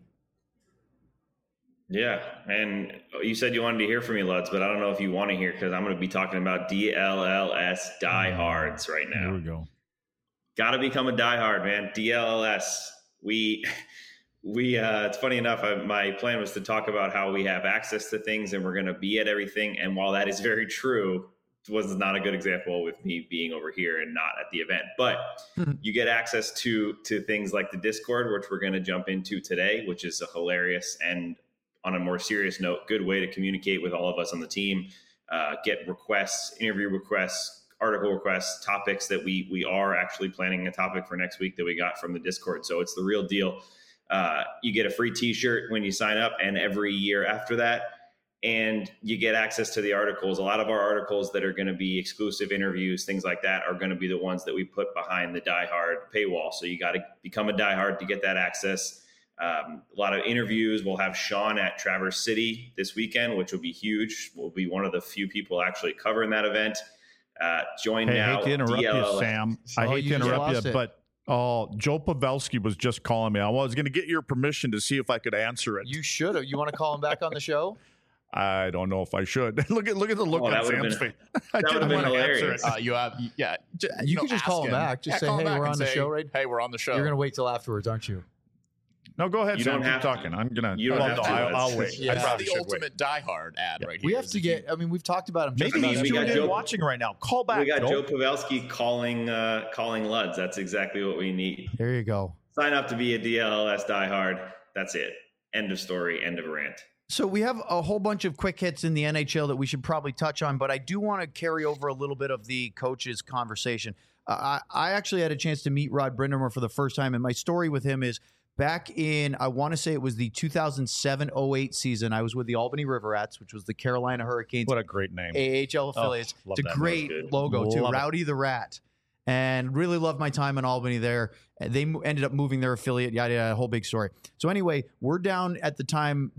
Yeah, and you said you wanted to hear from me, Lutz, but I don't know if you want to hear, because I'm going to be talking about DLLS diehards right now. Here we go. Got to become a diehard, man. DLLS. We it's funny enough, my plan was to talk about how we have access to things and we're going to be at everything. And while that is very true, it was not a good example with me being over here and not at the event. But you get access to things like the Discord, which we're going to jump into today, which is a hilarious and, on a more serious note, good way to communicate with all of us on the team, get requests, interview requests, article requests, topics that we are actually planning a topic for next week that we got from the Discord. So it's the real deal. You get a free t-shirt when you sign up, and every year after that, and you get access to the articles. A lot of our articles that are going to be exclusive interviews, things like that, are going to be the ones that we put behind the diehard paywall. So you got to become a diehard to get that access. A lot of interviews. We'll have Sean at Traverse City this weekend, which will be huge. We'll be one of the few people actually covering that event. Join now. I hate to interrupt you, Sam. I hate to interrupt you, but Joe Pavelski was just calling me. I was going to get your permission to see if I could answer it. You should have. You want to call him back on the show? I don't know if I should. look at the look on Sam's face. That would have been hilarious. You could just call him back. Just say, hey, we're on the show, right? Hey, we're on the show. You're going to wait till afterwards, aren't you? No, go ahead, You Sam. don't have Keep talking. I'm gonna. You don't have to. I'll wait. Yeah. That's probably the should ultimate diehard ad right here. We have to get. I mean, we've talked about him. Maybe he's we got tuned in Joe- watching right now. Call back. We got Joe. Joe Pavelski calling Luds. That's exactly what we need. There you go. Sign up to be a DLLS diehard. That's it. End of story. End of rant. So we have a whole bunch of quick hits in the NHL that we should probably touch on, but I do want to carry over a little bit of the coaches conversation. I actually had a chance to meet Rod Brind'Amour for the first time, and my story with him is back in, I want to say it was the 2007-08 season. I was with the Albany River Rats, which was the Carolina Hurricanes. What a great name. AHL affiliates. love It's a that. great That's good. logo, too. Love it. Rowdy the Rat. And really loved my time in Albany there. They ended up moving their affiliate, yada, yada, a whole big story. So anyway, we're down at the time,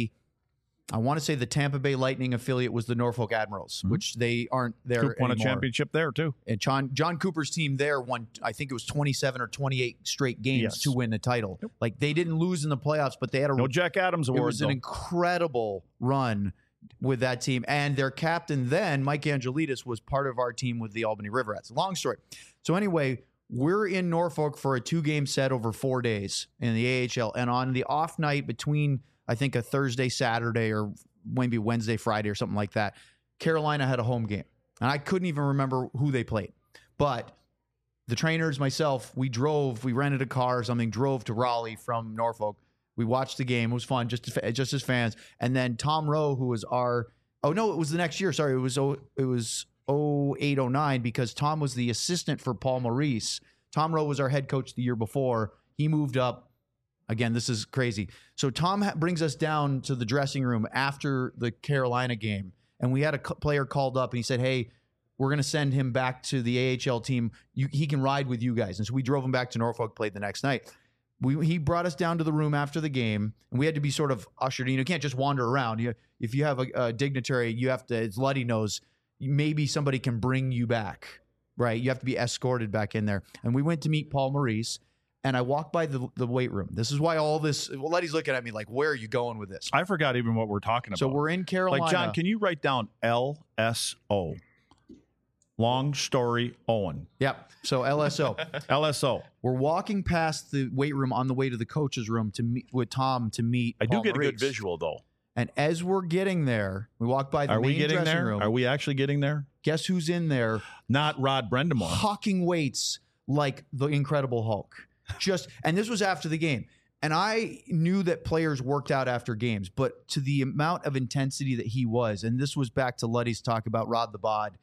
I want to say the Tampa Bay Lightning affiliate was the Norfolk Admirals, which they aren't there Coop won a anymore. championship there, too. And John Cooper's team there won, I think it was 27 or 28 straight games Yes. to win the title. Like, they didn't lose in the playoffs, but they had No Jack Adams it award, was an though. incredible run with that team. And their captain then, Mike Angelidis, was part of our team with the Albany River Rats. Long story. So anyway, we're in Norfolk for a 2-game set over 4 days in the AHL. And on the off night between, I think, a Thursday, Saturday, or maybe Wednesday, Friday, or something like that, Carolina had a home game. And I couldn't even remember who they played. But the trainers, myself, we rented a car or something, drove to Raleigh from Norfolk. We watched the game. It was fun, just as fans. And then Tom Rowe, who was it was the next year. Sorry, it was 08-09, because Tom was the assistant for Paul Maurice. Tom Rowe was our head coach the year before. He moved up. Again, this is crazy. So Tom brings us down to the dressing room after the Carolina game, and we had a player called up, and he said, "Hey, we're going to send him back to the AHL team. He can ride with you guys." And so we drove him back to Norfolk, played the next night. He brought us down to the room after the game, and we had to be sort of ushered in. You can't just wander around. If you have a dignitary, you have to, as Luddy knows, maybe somebody can bring you back, right? You have to be escorted back in there. And we went to meet Paul Maurice, and I walked by the weight room. This is why all this, Luddy's looking at me like, where are you going with this? I forgot even what we're talking about. So we're in Carolina. Like, John, can you write down LSO? Long story Owen. Yep. So LSO. LSO. We're walking past the weight room on the way to the coach's room to meet with Tom to meet I do Paul get a Maurice. good visual, though. And as we're getting there, we walk by the Are we main getting dressing there? room. Are we actually getting there? Guess who's in there? Not Rod Brind'Amour. Hawking weights like the Incredible Hulk. And this was after the game. And I knew that players worked out after games, but to the amount of intensity that he was, and this was back to Luddy's talk about Rod the Bod.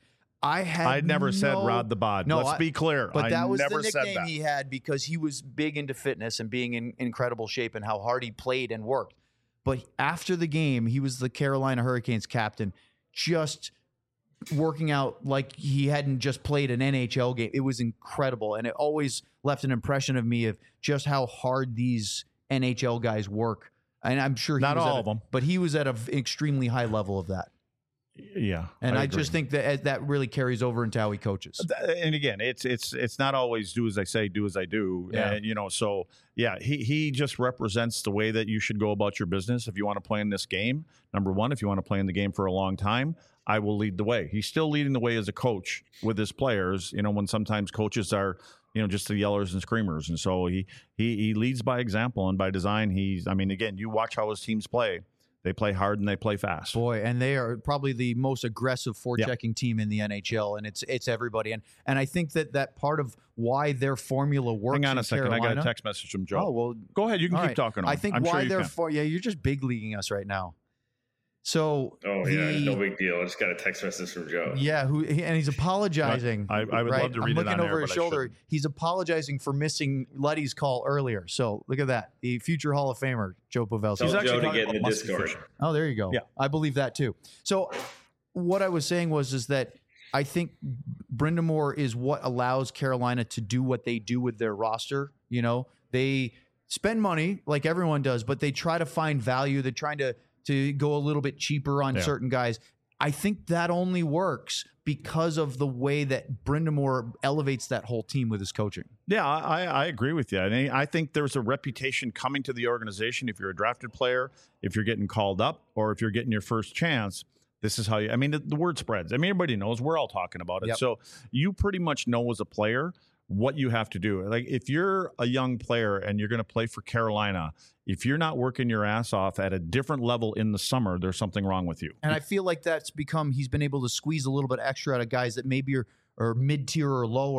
I never said Rod the Bod. No, Let's be clear. But that I was the never said nickname that. he had because he was big into fitness and being in incredible shape and how hard he played and worked. But after the game, he was the Carolina Hurricanes captain, just working out like he hadn't just played an NHL game. It was incredible. And it always left an impression of me of just how hard these NHL guys work. And I'm sure he Not was all at of them. But he was at an extremely high level of that. Yeah. And I agree. just think that really carries over into how he coaches. And again, it's not always do as I say, do as I do. Yeah. And, so yeah, he just represents the way that you should go about your business. If you want to play in this game, number one, if you want to play in the game for a long time, I will lead the way. He's still leading the way as a coach with his players, when sometimes coaches are, just the yellers and screamers. And so he leads by example and by design. Again, you watch how his teams play. They play hard and they play fast. Boy, and they are probably the most aggressive forechecking team in the NHL, and it's everybody. And I think that part of why their formula works. Hang on in a second. Carolina, I got a text message from Joe. Oh well, go ahead. You can all keep right. talking. I think I'm why sure you they're can. you're just big leaguing us right now. So No big deal. I just got a text message from Joe. Yeah, and he's apologizing. I would right? love to read I'm it looking on over air, his but I shoulder. shouldn't. He's apologizing for missing Luddy's call earlier. So look at that. The future Hall of Famer, Joe Pavelski. Tell Joe to talking get in the about muscle Discord. fishing. Oh, there you go. Yeah. I believe that too. So what I was saying is that I think Brind'Amour is what allows Carolina to do what they do with their roster. They spend money like everyone does, but they try to find value. They're trying to go a little bit cheaper on certain guys. I think that only works because of the way that Brind'Amour elevates that whole team with his coaching. Yeah, I agree with you. And I think there's a reputation coming to the organization. If you're a drafted player, if you're getting called up, or if you're getting your first chance, this is how you. The word spreads. Everybody knows. We're all talking about it. Yep. So you pretty much know as a player what you have to do. Like if you're a young player and you're going to play for Carolina, if you're not working your ass off at a different level in the summer, there's something wrong with you. And I feel like he's been able to squeeze a little bit extra out of guys that maybe are mid-tier or lower,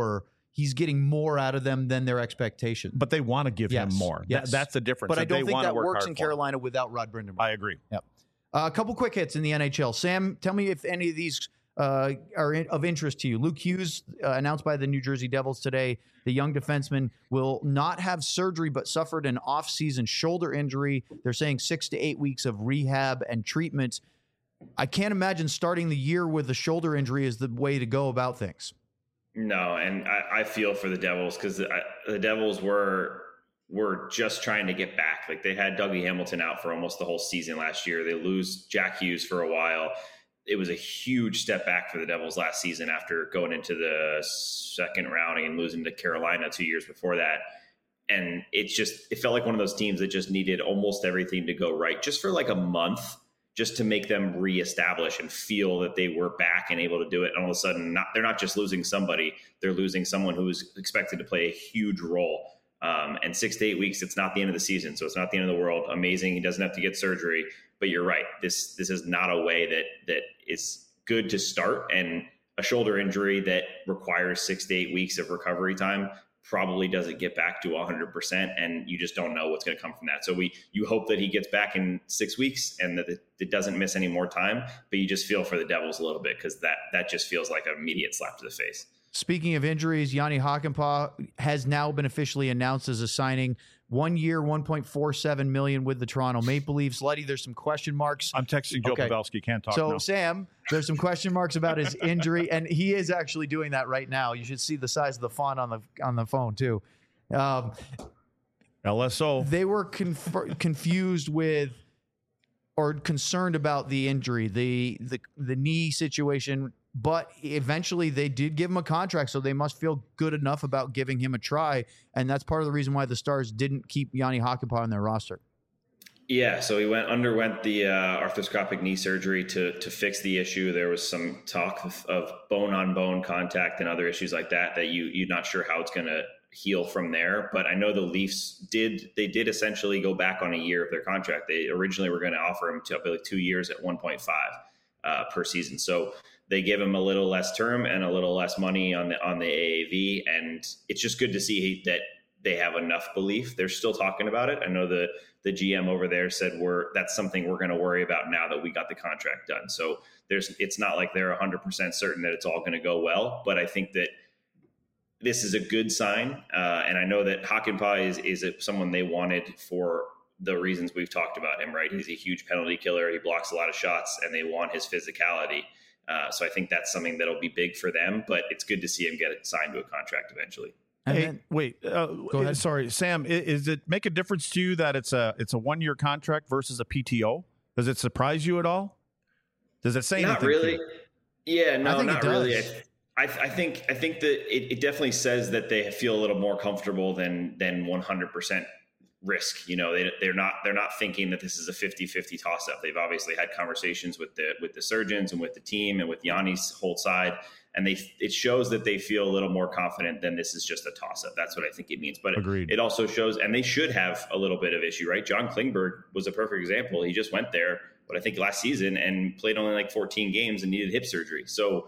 he's getting more out of them than their expectation. But they want to give him more. Yes. That's the difference. But I don't they think wanna that work works hard in for him. Carolina without Rod Brind'Amour. I agree. Yep. A couple quick hits in the NHL. Sam, tell me if any of these are of interest to you. Luke Hughes, announced by the New Jersey Devils today, the young defenseman will not have surgery but suffered an off-season shoulder injury. They're saying 6 to 8 weeks of rehab and treatment. I can't imagine starting the year with a shoulder injury is the way to go about things. No, and I feel for the Devils because the Devils were just trying to get back. Like they had Dougie Hamilton out for almost the whole season last year. They lose Jack Hughes for a while. It was a huge step back for the Devils last season after going into the second round and losing to Carolina 2 years before that. And it felt like one of those teams that just needed almost everything to go right just for like a month, just to make them reestablish and feel that they were back and able to do it. And all of a sudden, they're not just losing somebody, they're losing someone who is expected to play a huge role. And 6 to 8 weeks, it's not the end of the season. So it's not the end of the world. Amazing. He doesn't have to get surgery, but you're right. This is not a way that is good to start. And a shoulder injury that requires 6 to 8 weeks of recovery time probably doesn't get back to 100%. And you just don't know what's going to come from that. So you hope that he gets back in 6 weeks and that it doesn't miss any more time, but you just feel for the Devils a little bit because that just feels like an immediate slap to the face. Speaking of injuries, Yanni Hakanpää has now been officially announced as a signing. 1 year, $1.47 million with the Toronto Maple Leafs. Letty, there's some question marks. I'm texting Joe Pavelski. Can't talk So, now. Sam, there's some question marks about his injury, and he is actually doing that right now. You should see the size of the font on the phone, too. LSO. They were confused with or concerned about the injury, the knee situation, but eventually they did give him a contract, so they must feel good enough about giving him a try, and that's part of the reason why the Stars didn't keep Yanni Hakanpää on their roster. Yeah, so he underwent the arthroscopic knee surgery to fix the issue. There was some talk of bone-on-bone contact and other issues like that you're not sure how it's going to heal from there. But I know the Leafs did essentially go back on a year of their contract. They originally were going to offer him to 2 years at 1.5 per season. So they give him a little less term and a little less money on the AAV, and it's just good to see that they have enough belief. They're still talking about it. I know the GM over there said that's something we're going to worry about now that we got the contract done. So it's not like they're 100% certain that it's all going to go well, but I think that this is a good sign. And I know that Hakanpää is someone they wanted for the reasons we've talked about him, right? He's a huge penalty killer. He blocks a lot of shots, and they want his physicality. So I think that's something that'll be big for them, but it's good to see him get signed to a contract eventually. Wait. Go ahead. Sorry, Sam. Is it make a difference to you that it's a 1 year contract versus a PTO? Does it surprise you at all? Does it say anything? Not really. Yeah, no, I think not it does. really. I think that it definitely says that they feel a little more comfortable than 100% risk. You know, they're not thinking that this is a 50-50 toss up. They've obviously had conversations with the surgeons and with the team and with Yanni's whole side. And it shows that they feel a little more confident than this is just a toss-up. That's what I think it means. But it also shows, and they should have a little bit of issue, right? John Klingberg was a perfect example. He just went there, but I think last season and played only like 14 games and needed hip surgery. So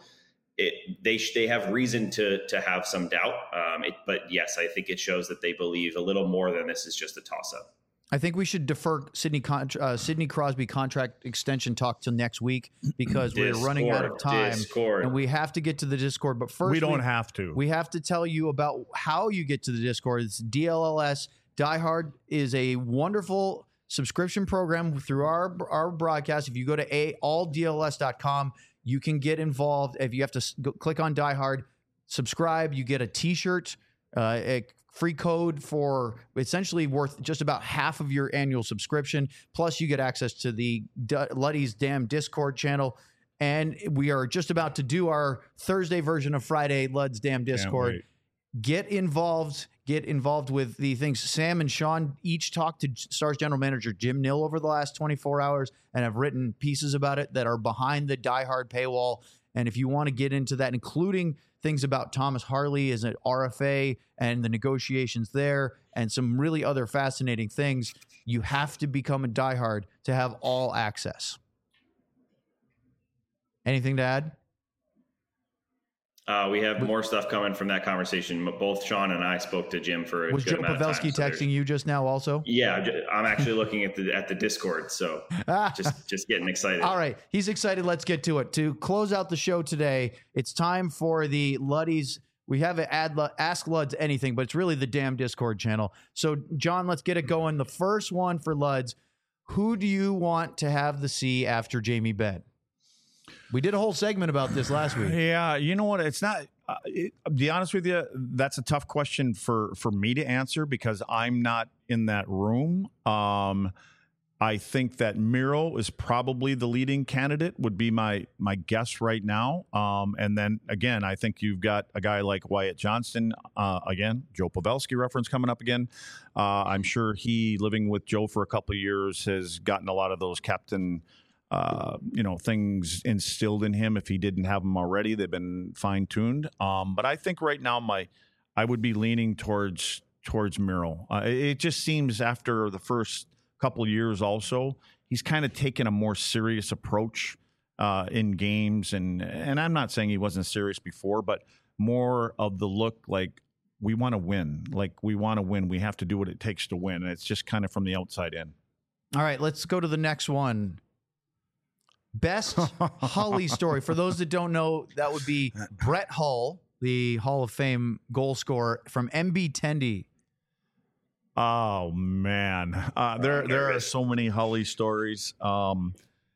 they have reason to have some doubt. But yes, I think it shows that they believe a little more than this is just a toss-up. I think we should defer Sidney Crosby contract extension talk till next week because we're running out of time. And we have to get to the Discord. But first, we don't have to. We have to tell you about how you get to the Discord. It's DLLS. Die Hard is a wonderful subscription program through our broadcast. If you go to alldls.com, you can get involved. If you have to click on Die Hard, subscribe, you get a T-shirt, a free code for essentially worth just about half of your annual subscription. Plus, you get access to the Luddy's Damn Discord channel. And we are just about to do our Thursday version of Friday Lud's Damn Discord. Get involved with the things. Sam and Sean each talked to Stars general manager Jim Nill over the last 24 hours and have written pieces about it that are behind the Die Hard paywall. And if you want to get into that, including things about Thomas Harley as an RFA and the negotiations there and some really other fascinating things, you have to become a Die Hard to have all access. Anything to add? We have more stuff coming from that conversation. Both Sean and I spoke to Jim for a Was good Joe amount of time. Pavelski So texting you just now also? Yeah, I'm actually looking at the Discord, so just getting excited. All right, he's excited. Let's get to it. To close out the show today, it's time for the Luddies. We have an Ask Luds Anything, but it's really the damn Discord channel. So, John, let's get it going. The first one for Luds. Who do you want to have the C after Jamie Benn? We did a whole segment about this last week. Yeah, you know what? It's not. To be honest with you, that's a tough question for me to answer because I'm not in that room. I think that Miro is probably the leading candidate. Would be my guess right now. And then again, I think you've got a guy like Wyatt Johnston. Again, Joe Pavelski reference coming up again. I'm sure he, living with Joe for a couple of years, has gotten a lot of those captain. Things instilled in him. If he didn't have them already, they've been fine tuned. But I think right now I would be leaning towards Miro. It just seems after the first couple of years, also he's kind of taken a more serious approach in games, and I'm not saying he wasn't serious before, but more of the look like we want to win. Like we want to win. We have to do what it takes to win. And it's just kind of from the outside in. All right, let's go to the next one. Best Hully story. For those that don't know, that would be Brett Hull, the Hall of Fame goal scorer from MB Tendy. Oh man, there are so many Hully stories. There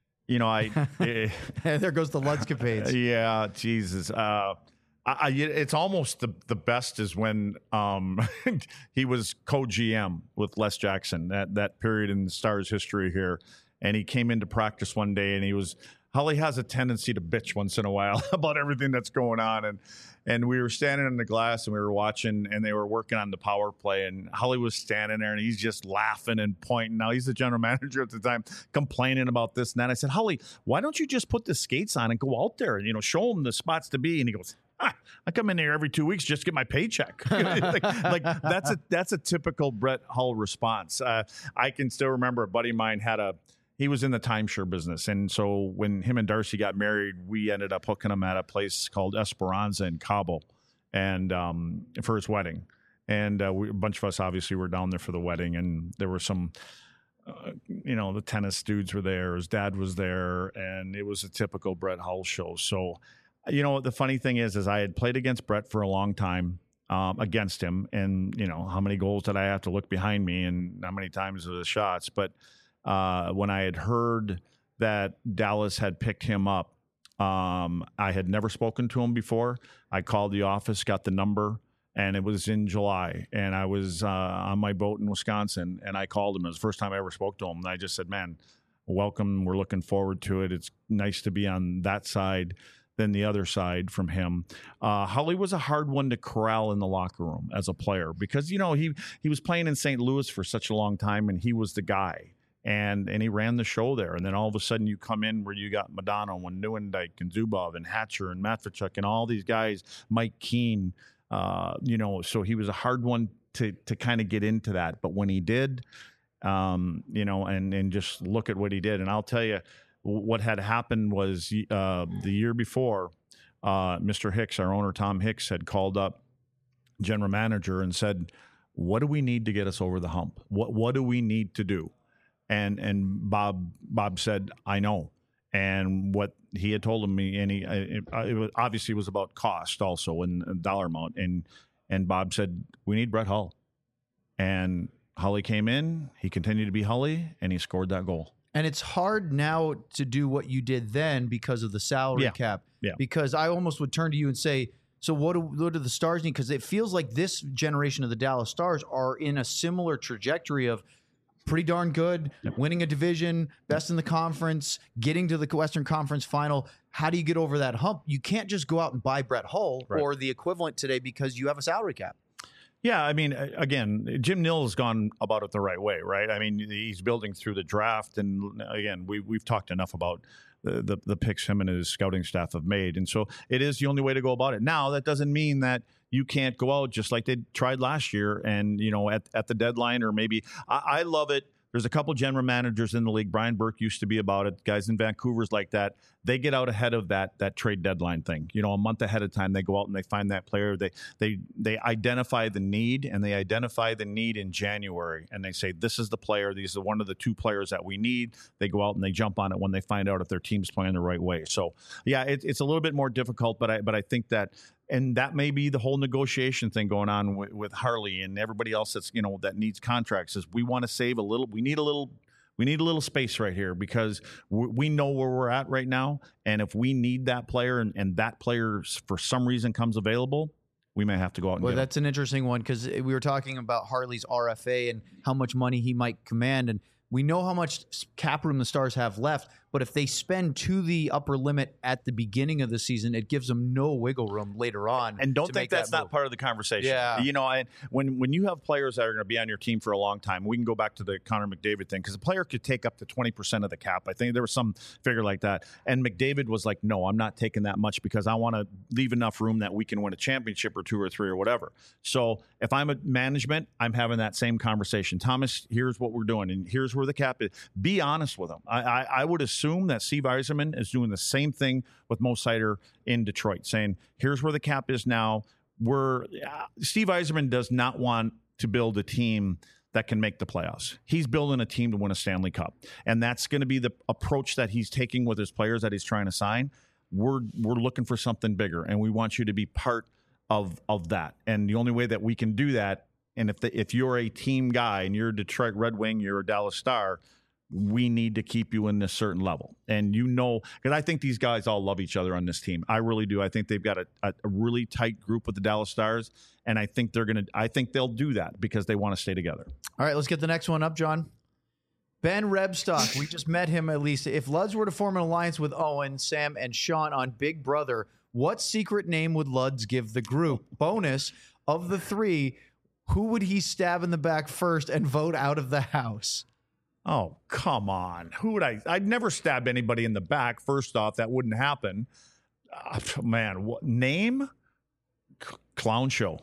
goes the Ludscapades. Yeah, Jesus. It's almost the best is when he was co-GM with Les Jackson, that period in the Stars history here. And he came into practice one day, and Hully has a tendency to bitch once in a while about everything that's going on. And we were standing in the glass, and we were watching, and they were working on the power play. And Hully was standing there, and he's just laughing and pointing. Now, he's the general manager at the time, complaining about this and that. I said, Hully, why don't you just put the skates on and go out there and, show them the spots to be? And he goes, I come in here every 2 weeks just to get my paycheck. like that's a typical Brett Hull response. I can still remember a buddy of mine he was in the timeshare business. And so when him and Darcy got married, we ended up hooking him at a place called Esperanza in Cabo and for his wedding. And a bunch of us obviously were down there for the wedding. And there were some, the tennis dudes were there. His dad was there. And it was a typical Brett Hull show. So, the funny thing is I had played against Brett for a long time. Against him. And, how many goals did I have to look behind me and how many times the shots. But when I had heard that Dallas had picked him up, I had never spoken to him before. I called the office, got the number, and it was in July. And I was on my boat in Wisconsin, and I called him. It was the first time I ever spoke to him. And I just said, man, welcome. We're looking forward to it. It's nice to be on that side than the other side from him. Hully was a hard one to corral in the locker room as a player because, he was playing in St. Louis for such a long time, and he was the guy. And he ran the show there. And then all of a sudden you come in where you got Madonna and Neuendijk and Zubov and Hatcher and Matvichuk and all these guys, Mike Keane, so he was a hard one to kind of get into that. But when he did, and just look at what he did. And I'll tell you what had happened was the year before, Mr. Hicks, our owner, Tom Hicks, had called up general manager and said, what do we need to get us over the hump? What do we need to do? And Bob said, I know. And what he had told me, and it was obviously was about cost also and dollar amount. And Bob said, we need Brett Hull. And Hully came in, he continued to be Hully, and he scored that goal. And it's hard now to do what you did then because of the salary cap. Yeah. Because I almost would turn to you and say, so what do the Stars need? Because it feels like this generation of the Dallas Stars are in a similar trajectory of pretty darn good, winning a division, best in the conference, getting to the Western Conference final. How do you get over that hump? You can't just go out and buy Brett Hull or the equivalent today because you have a salary cap. Yeah, I mean, again, Jim Nill has gone about it the right way, right? I mean, he's building through the draft. And again, we've talked enough about the picks him and his scouting staff have made. And so it is the only way to go about it. Now, that doesn't mean that you can't go out just like they tried last year and, at the deadline or maybe I love it. There's a couple general managers in the league. Brian Burke used to be about it. Guys in Vancouver's like that. They get out ahead of that trade deadline thing. A month ahead of time, they go out and they find that player. They identify the need, and they identify the need in January, and they say, this is the player. These are one of the two players that we need. They go out and they jump on it when they find out if their team's playing the right way. So, yeah, it's a little bit more difficult, but I think that, and that may be the whole negotiation thing going on with Harley and everybody else that's that needs contracts. Is we want to save a little. We need a little space right here because we know where we're at right now. And if we need that player and that player for some reason comes available, we may have to go out and get that's an interesting one because we were talking about Harley's RFA and how much money he might command. And we know how much cap room the Stars have left, but if they spend to the upper limit at the beginning of the season, it gives them no wiggle room later on. And don't think that's not part of the conversation. Yeah. And when you have players that are going to be on your team for a long time, we can go back to the Connor McDavid thing because a player could take up to 20% of the cap. I think there was some figure like that. And McDavid was like, no, I'm not taking that much because I want to leave enough room that we can win a championship or 2 or 3 or whatever. So if I'm a management, I'm having that same conversation. Thomas, here's what we're doing, and here's where the cap is. Be honest with them. I would assume that Steve Yzerman is doing the same thing with Mo Seider in Detroit, saying, here's where the cap is now. Steve Yzerman does not want to build a team that can make the playoffs. He's building a team to win a Stanley Cup. And that's going to be the approach that he's taking with his players that he's trying to sign. We're looking for something bigger, and we want you to be part of that. And the only way that we can do that, and if you're a team guy and you're a Detroit Red Wing, you're a Dallas Star, we need to keep you in this certain level. And because I think these guys all love each other on this team. I really do. I think they've got a really tight group with the Dallas Stars, and I think they'll do that because they want to stay together. All right, let's get the next one up, John. Ben Rebstock, we just met him at least. If Luds were to form an alliance with Owen, Sam, and Sean on Big Brother, what secret name would Luds give the group? Bonus, of the 3, who would he stab in the back first and vote out of the house? Oh, come on. Who would I'd never stab anybody in the back. First off, that wouldn't happen. Man, what name? Clown Show.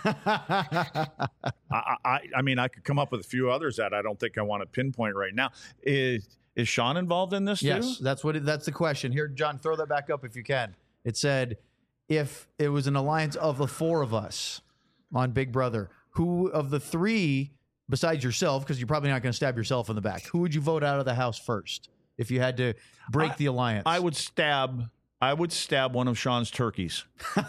I mean, I could come up with a few others that I don't think I want to pinpoint right now. Is Sean involved in this too? Yes, that's the question. Here, John, throw that back up if you can. It said, if it was an alliance of the 4 of us on Big Brother, who of the 3... besides yourself, because you're probably not going to stab yourself in the back, who would you vote out of the house first if you had to break the alliance? I would stab one of Sean's turkeys.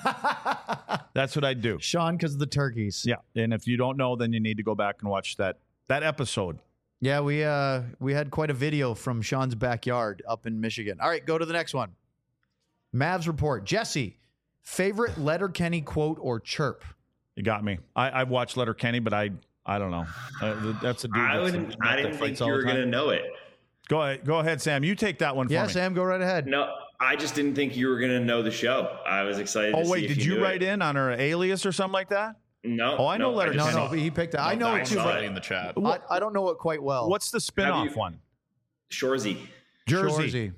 That's what I'd do. Sean, because of the turkeys. Yeah, and if you don't know, then you need to go back and watch that episode. Yeah, we had quite a video from Sean's backyard up in Michigan. All right, go to the next one. Mavs report. Jesse, favorite Letterkenny quote or chirp? You got me. I've watched Letterkenny, but I don't know. That's a dude. I didn't think you were going to know it. Go ahead, Sam. You take that one for me. Yeah, Sam, go right ahead. No, I just didn't think you were going to know the show. I was excited. Oh, wait, did you write in on our alias or something like that? No. Oh, I know Letterkenny. No, he picked it. I know it too. But in the chat. I don't know it quite well. What's the spinoff one? Shorzy. Shorzy.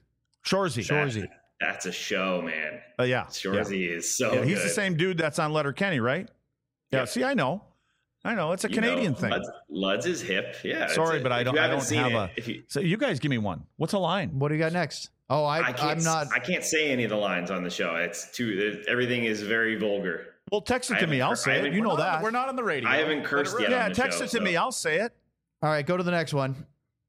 That's a show, man. Yeah. Shorzy is so good. He's the same dude that's on Letterkenny, right? Yeah. See, I know. It's a Canadian thing. Luds is hip. Yeah. Sorry, but I don't have so you guys give me one. What's a line? What do you got next? Oh, I'm not. I can't say any of the lines on the show. Everything is very vulgar. Well, text it to me. I'll say it. You know that. We're not on the radio. I haven't cursed yet. Yeah, on the text show, it to me. I'll say it. All right, go to the next one.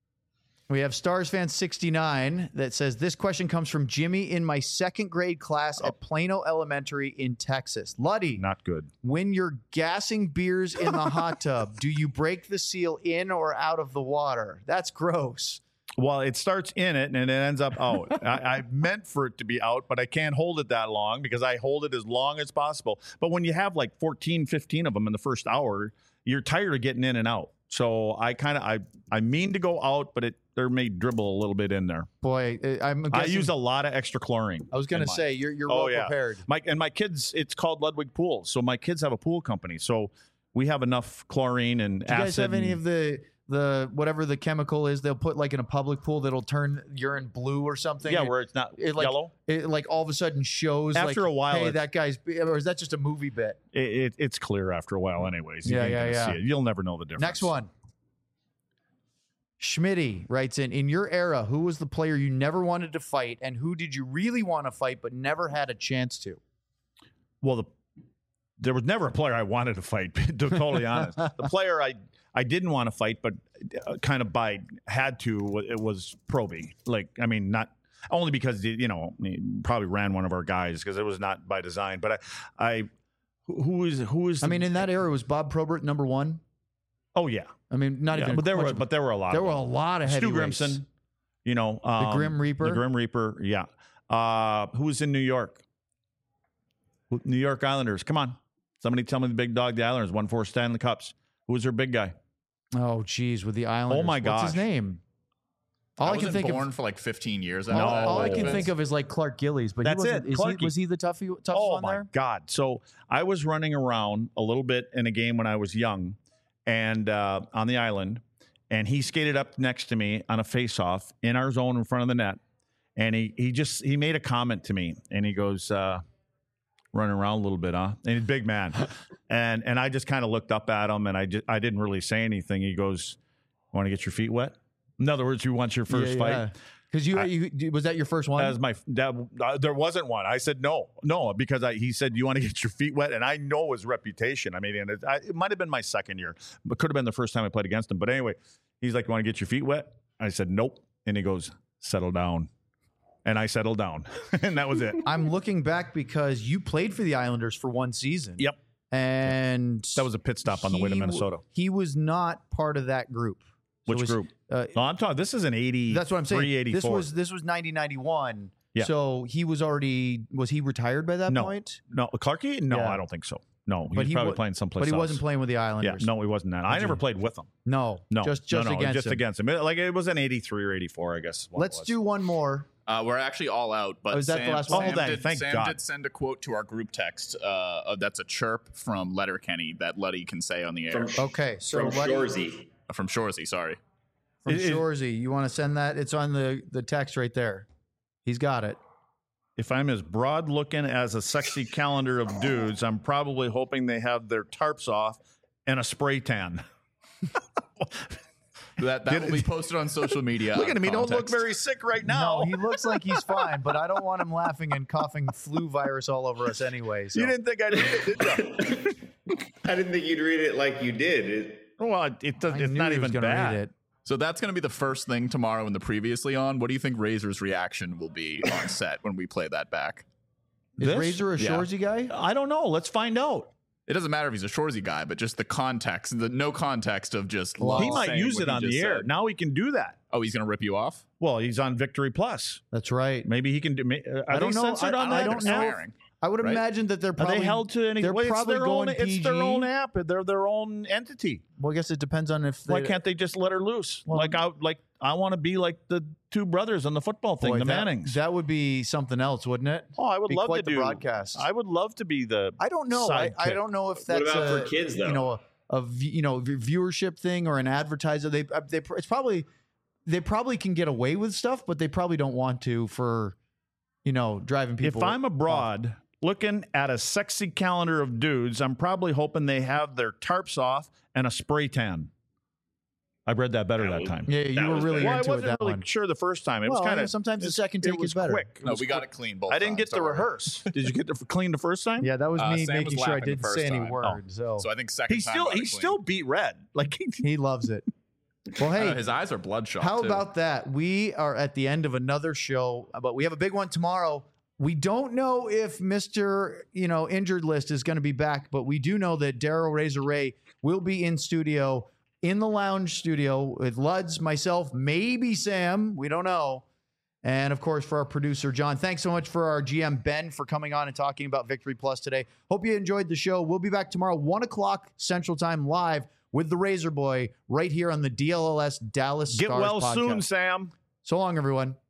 We have Stars fan 69 that says, this question comes from Jimmy in my 2nd grade class at Plano Elementary in Texas. Luddy. Not good. When you're gassing beers in the hot tub, do you break the seal in or out of the water? That's gross. Well, it starts in it and it ends up out. I meant for it to be out, but I can't hold it that long because I hold it as long as possible. But when you have like 14, 15 of them in the first hour, you're tired of getting in and out. So I mean to go out, but there may dribble a little bit in there. Boy, I use a lot of extra chlorine. I was going to say you're well prepared. My kids, it's called Ludwig Pools. So my kids have a pool company. So we have enough chlorine and acid. Do you guys have any of the whatever the chemical is they'll put like in a public pool that'll turn urine blue or something? Yeah, where it's not yellow. It like all of a sudden shows after a while. Hey, that guy's, or is that just a movie bit? It's clear after a while, anyways. You yeah. see it. You'll never know the difference. Next one. Schmitty writes in your era, who was the player you never wanted to fight, and who did you really want to fight but never had a chance to? Well, there was never a player I wanted to fight, to be totally honest. The player I didn't want to fight, but kind of had to, it was Proby. Like, I mean, not only because, he probably ran one of our guys because it was not by design, but who is I mean, in that era, was Bob Probert number one? Oh, yeah. I mean, not even. But there were a lot. There were a lot of Stu heavyweights. Grimson, the Grim Reaper. The Grim Reaper, yeah. Who was in New York? New York Islanders. Come on. Somebody tell me the big dog, the Islanders, won 4 Stanley Cups. Who was their big guy? Oh, geez, with the Islanders. Oh, my gosh. What's his name? All I can think born for like 15 years. All I can think of is like Clark Gillies, but that's it. Was he the toughest one there? Oh my God! So I was running around a little bit in a game when I was young, and on the island, and he skated up next to me on a face-off in our zone in front of the net, and he made a comment to me, and he goes, "Running around a little bit, huh?" And he's a big man, and I just kind of looked up at him, and I didn't really say anything. He goes, "Want to get your feet wet?" In other words, you want your first fight? Because you was that your first one? There wasn't one. I said no, because he said, you want to get your feet wet, and I know his reputation. I mean, and it might have been my second year, but could have been the first time I played against him. But anyway, he's like, you want to get your feet wet? I said nope, and he goes, settle down, and I settled down, and that was it. I'm looking back because you played for the Islanders for one season. Yep, and that was a pit stop on the way to Minnesota. He was not part of that group. Which group? No, I'm talking. This is an 80. That's what I'm saying. 84. This was 90-91. Yeah. So he was he retired by that point? No, Clarkie? No, I don't think so. No, he was probably playing someplace else. But he wasn't playing with the Islanders. Yeah, no, he wasn't that. I never played with him. No, just against him. Like it was an 83 or 84, I guess. Let's do one more. We're actually all out, but is that the last one? Sam did send a quote to our group text. That's a chirp from Letterkenny that Letty can say on the air. From Shorzy. From Shorzy, sorry. From Shorzy. You want to send that? It's on the text right there. He's got it. If I'm as broad looking as a sexy calendar of dudes, I'm probably hoping they have their tarps off and a spray tan. That will be posted on social media. Look at him. He don't look very sick right now. No, he looks like he's fine, but I don't want him laughing and coughing flu virus all over us anyway. So. You didn't think I'd read it, did you? I didn't think you'd read it like you did. Well, it's not even bad. So that's going to be the first thing tomorrow in the Previously On. What do you think Razor's reaction will be on set when we play that back? Is Razor a Shorzy guy? I don't know. Let's find out. It doesn't matter if he's a Shorzy guy, but just the context, the no context of just. He might use it on the air. Now he can do that. Oh, he's going to rip you off? Well, he's on Victory Plus. That's right. Maybe he can do. I don't know. I don't know. I would imagine that they're probably. Are they held to any? They're probably going PG. It's their own app. They're their own entity. Well, I guess it depends on if. Why can't they just let her loose? Well, I want to be like the two brothers on the football thing, the Mannings. That would be something else, wouldn't it? Oh, I would love to do broadcast. I would love to be the. I don't know. I don't know if that's what about for kids though. A viewership thing or an advertiser. It's probably they probably can get away with stuff, but they probably don't want to for driving people. If I'm abroad. Looking at a sexy calendar of dudes, I'm probably hoping they have their tarps off and a spray tan. I read that better that time. Yeah, you were really into it. I wasn't really sure the first time. It was kind of sometimes the second take is better. Quick. No, we got it clean both. I didn't get to rehearse. Did you get to clean the first time? Yeah, that was me making sure I didn't say any words. So I think second time he still beat red. Like he loves it. Well, hey, his eyes are bloodshot. How about that? We are at the end of another show, but we have a big one tomorrow. We don't know if Mr. Injured List is going to be back, but we do know that Daryl Razor Ray will be in studio, in the lounge studio with Luds, myself, maybe Sam. We don't know. And, of course, for our producer, John. Thanks so much for our GM, Ben, for coming on and talking about Victory Plus today. Hope you enjoyed the show. We'll be back tomorrow, 1 o'clock Central Time, live with the Razor Boy right here on the DLLS Dallas Stars podcast. Get well soon, Sam. So long, everyone.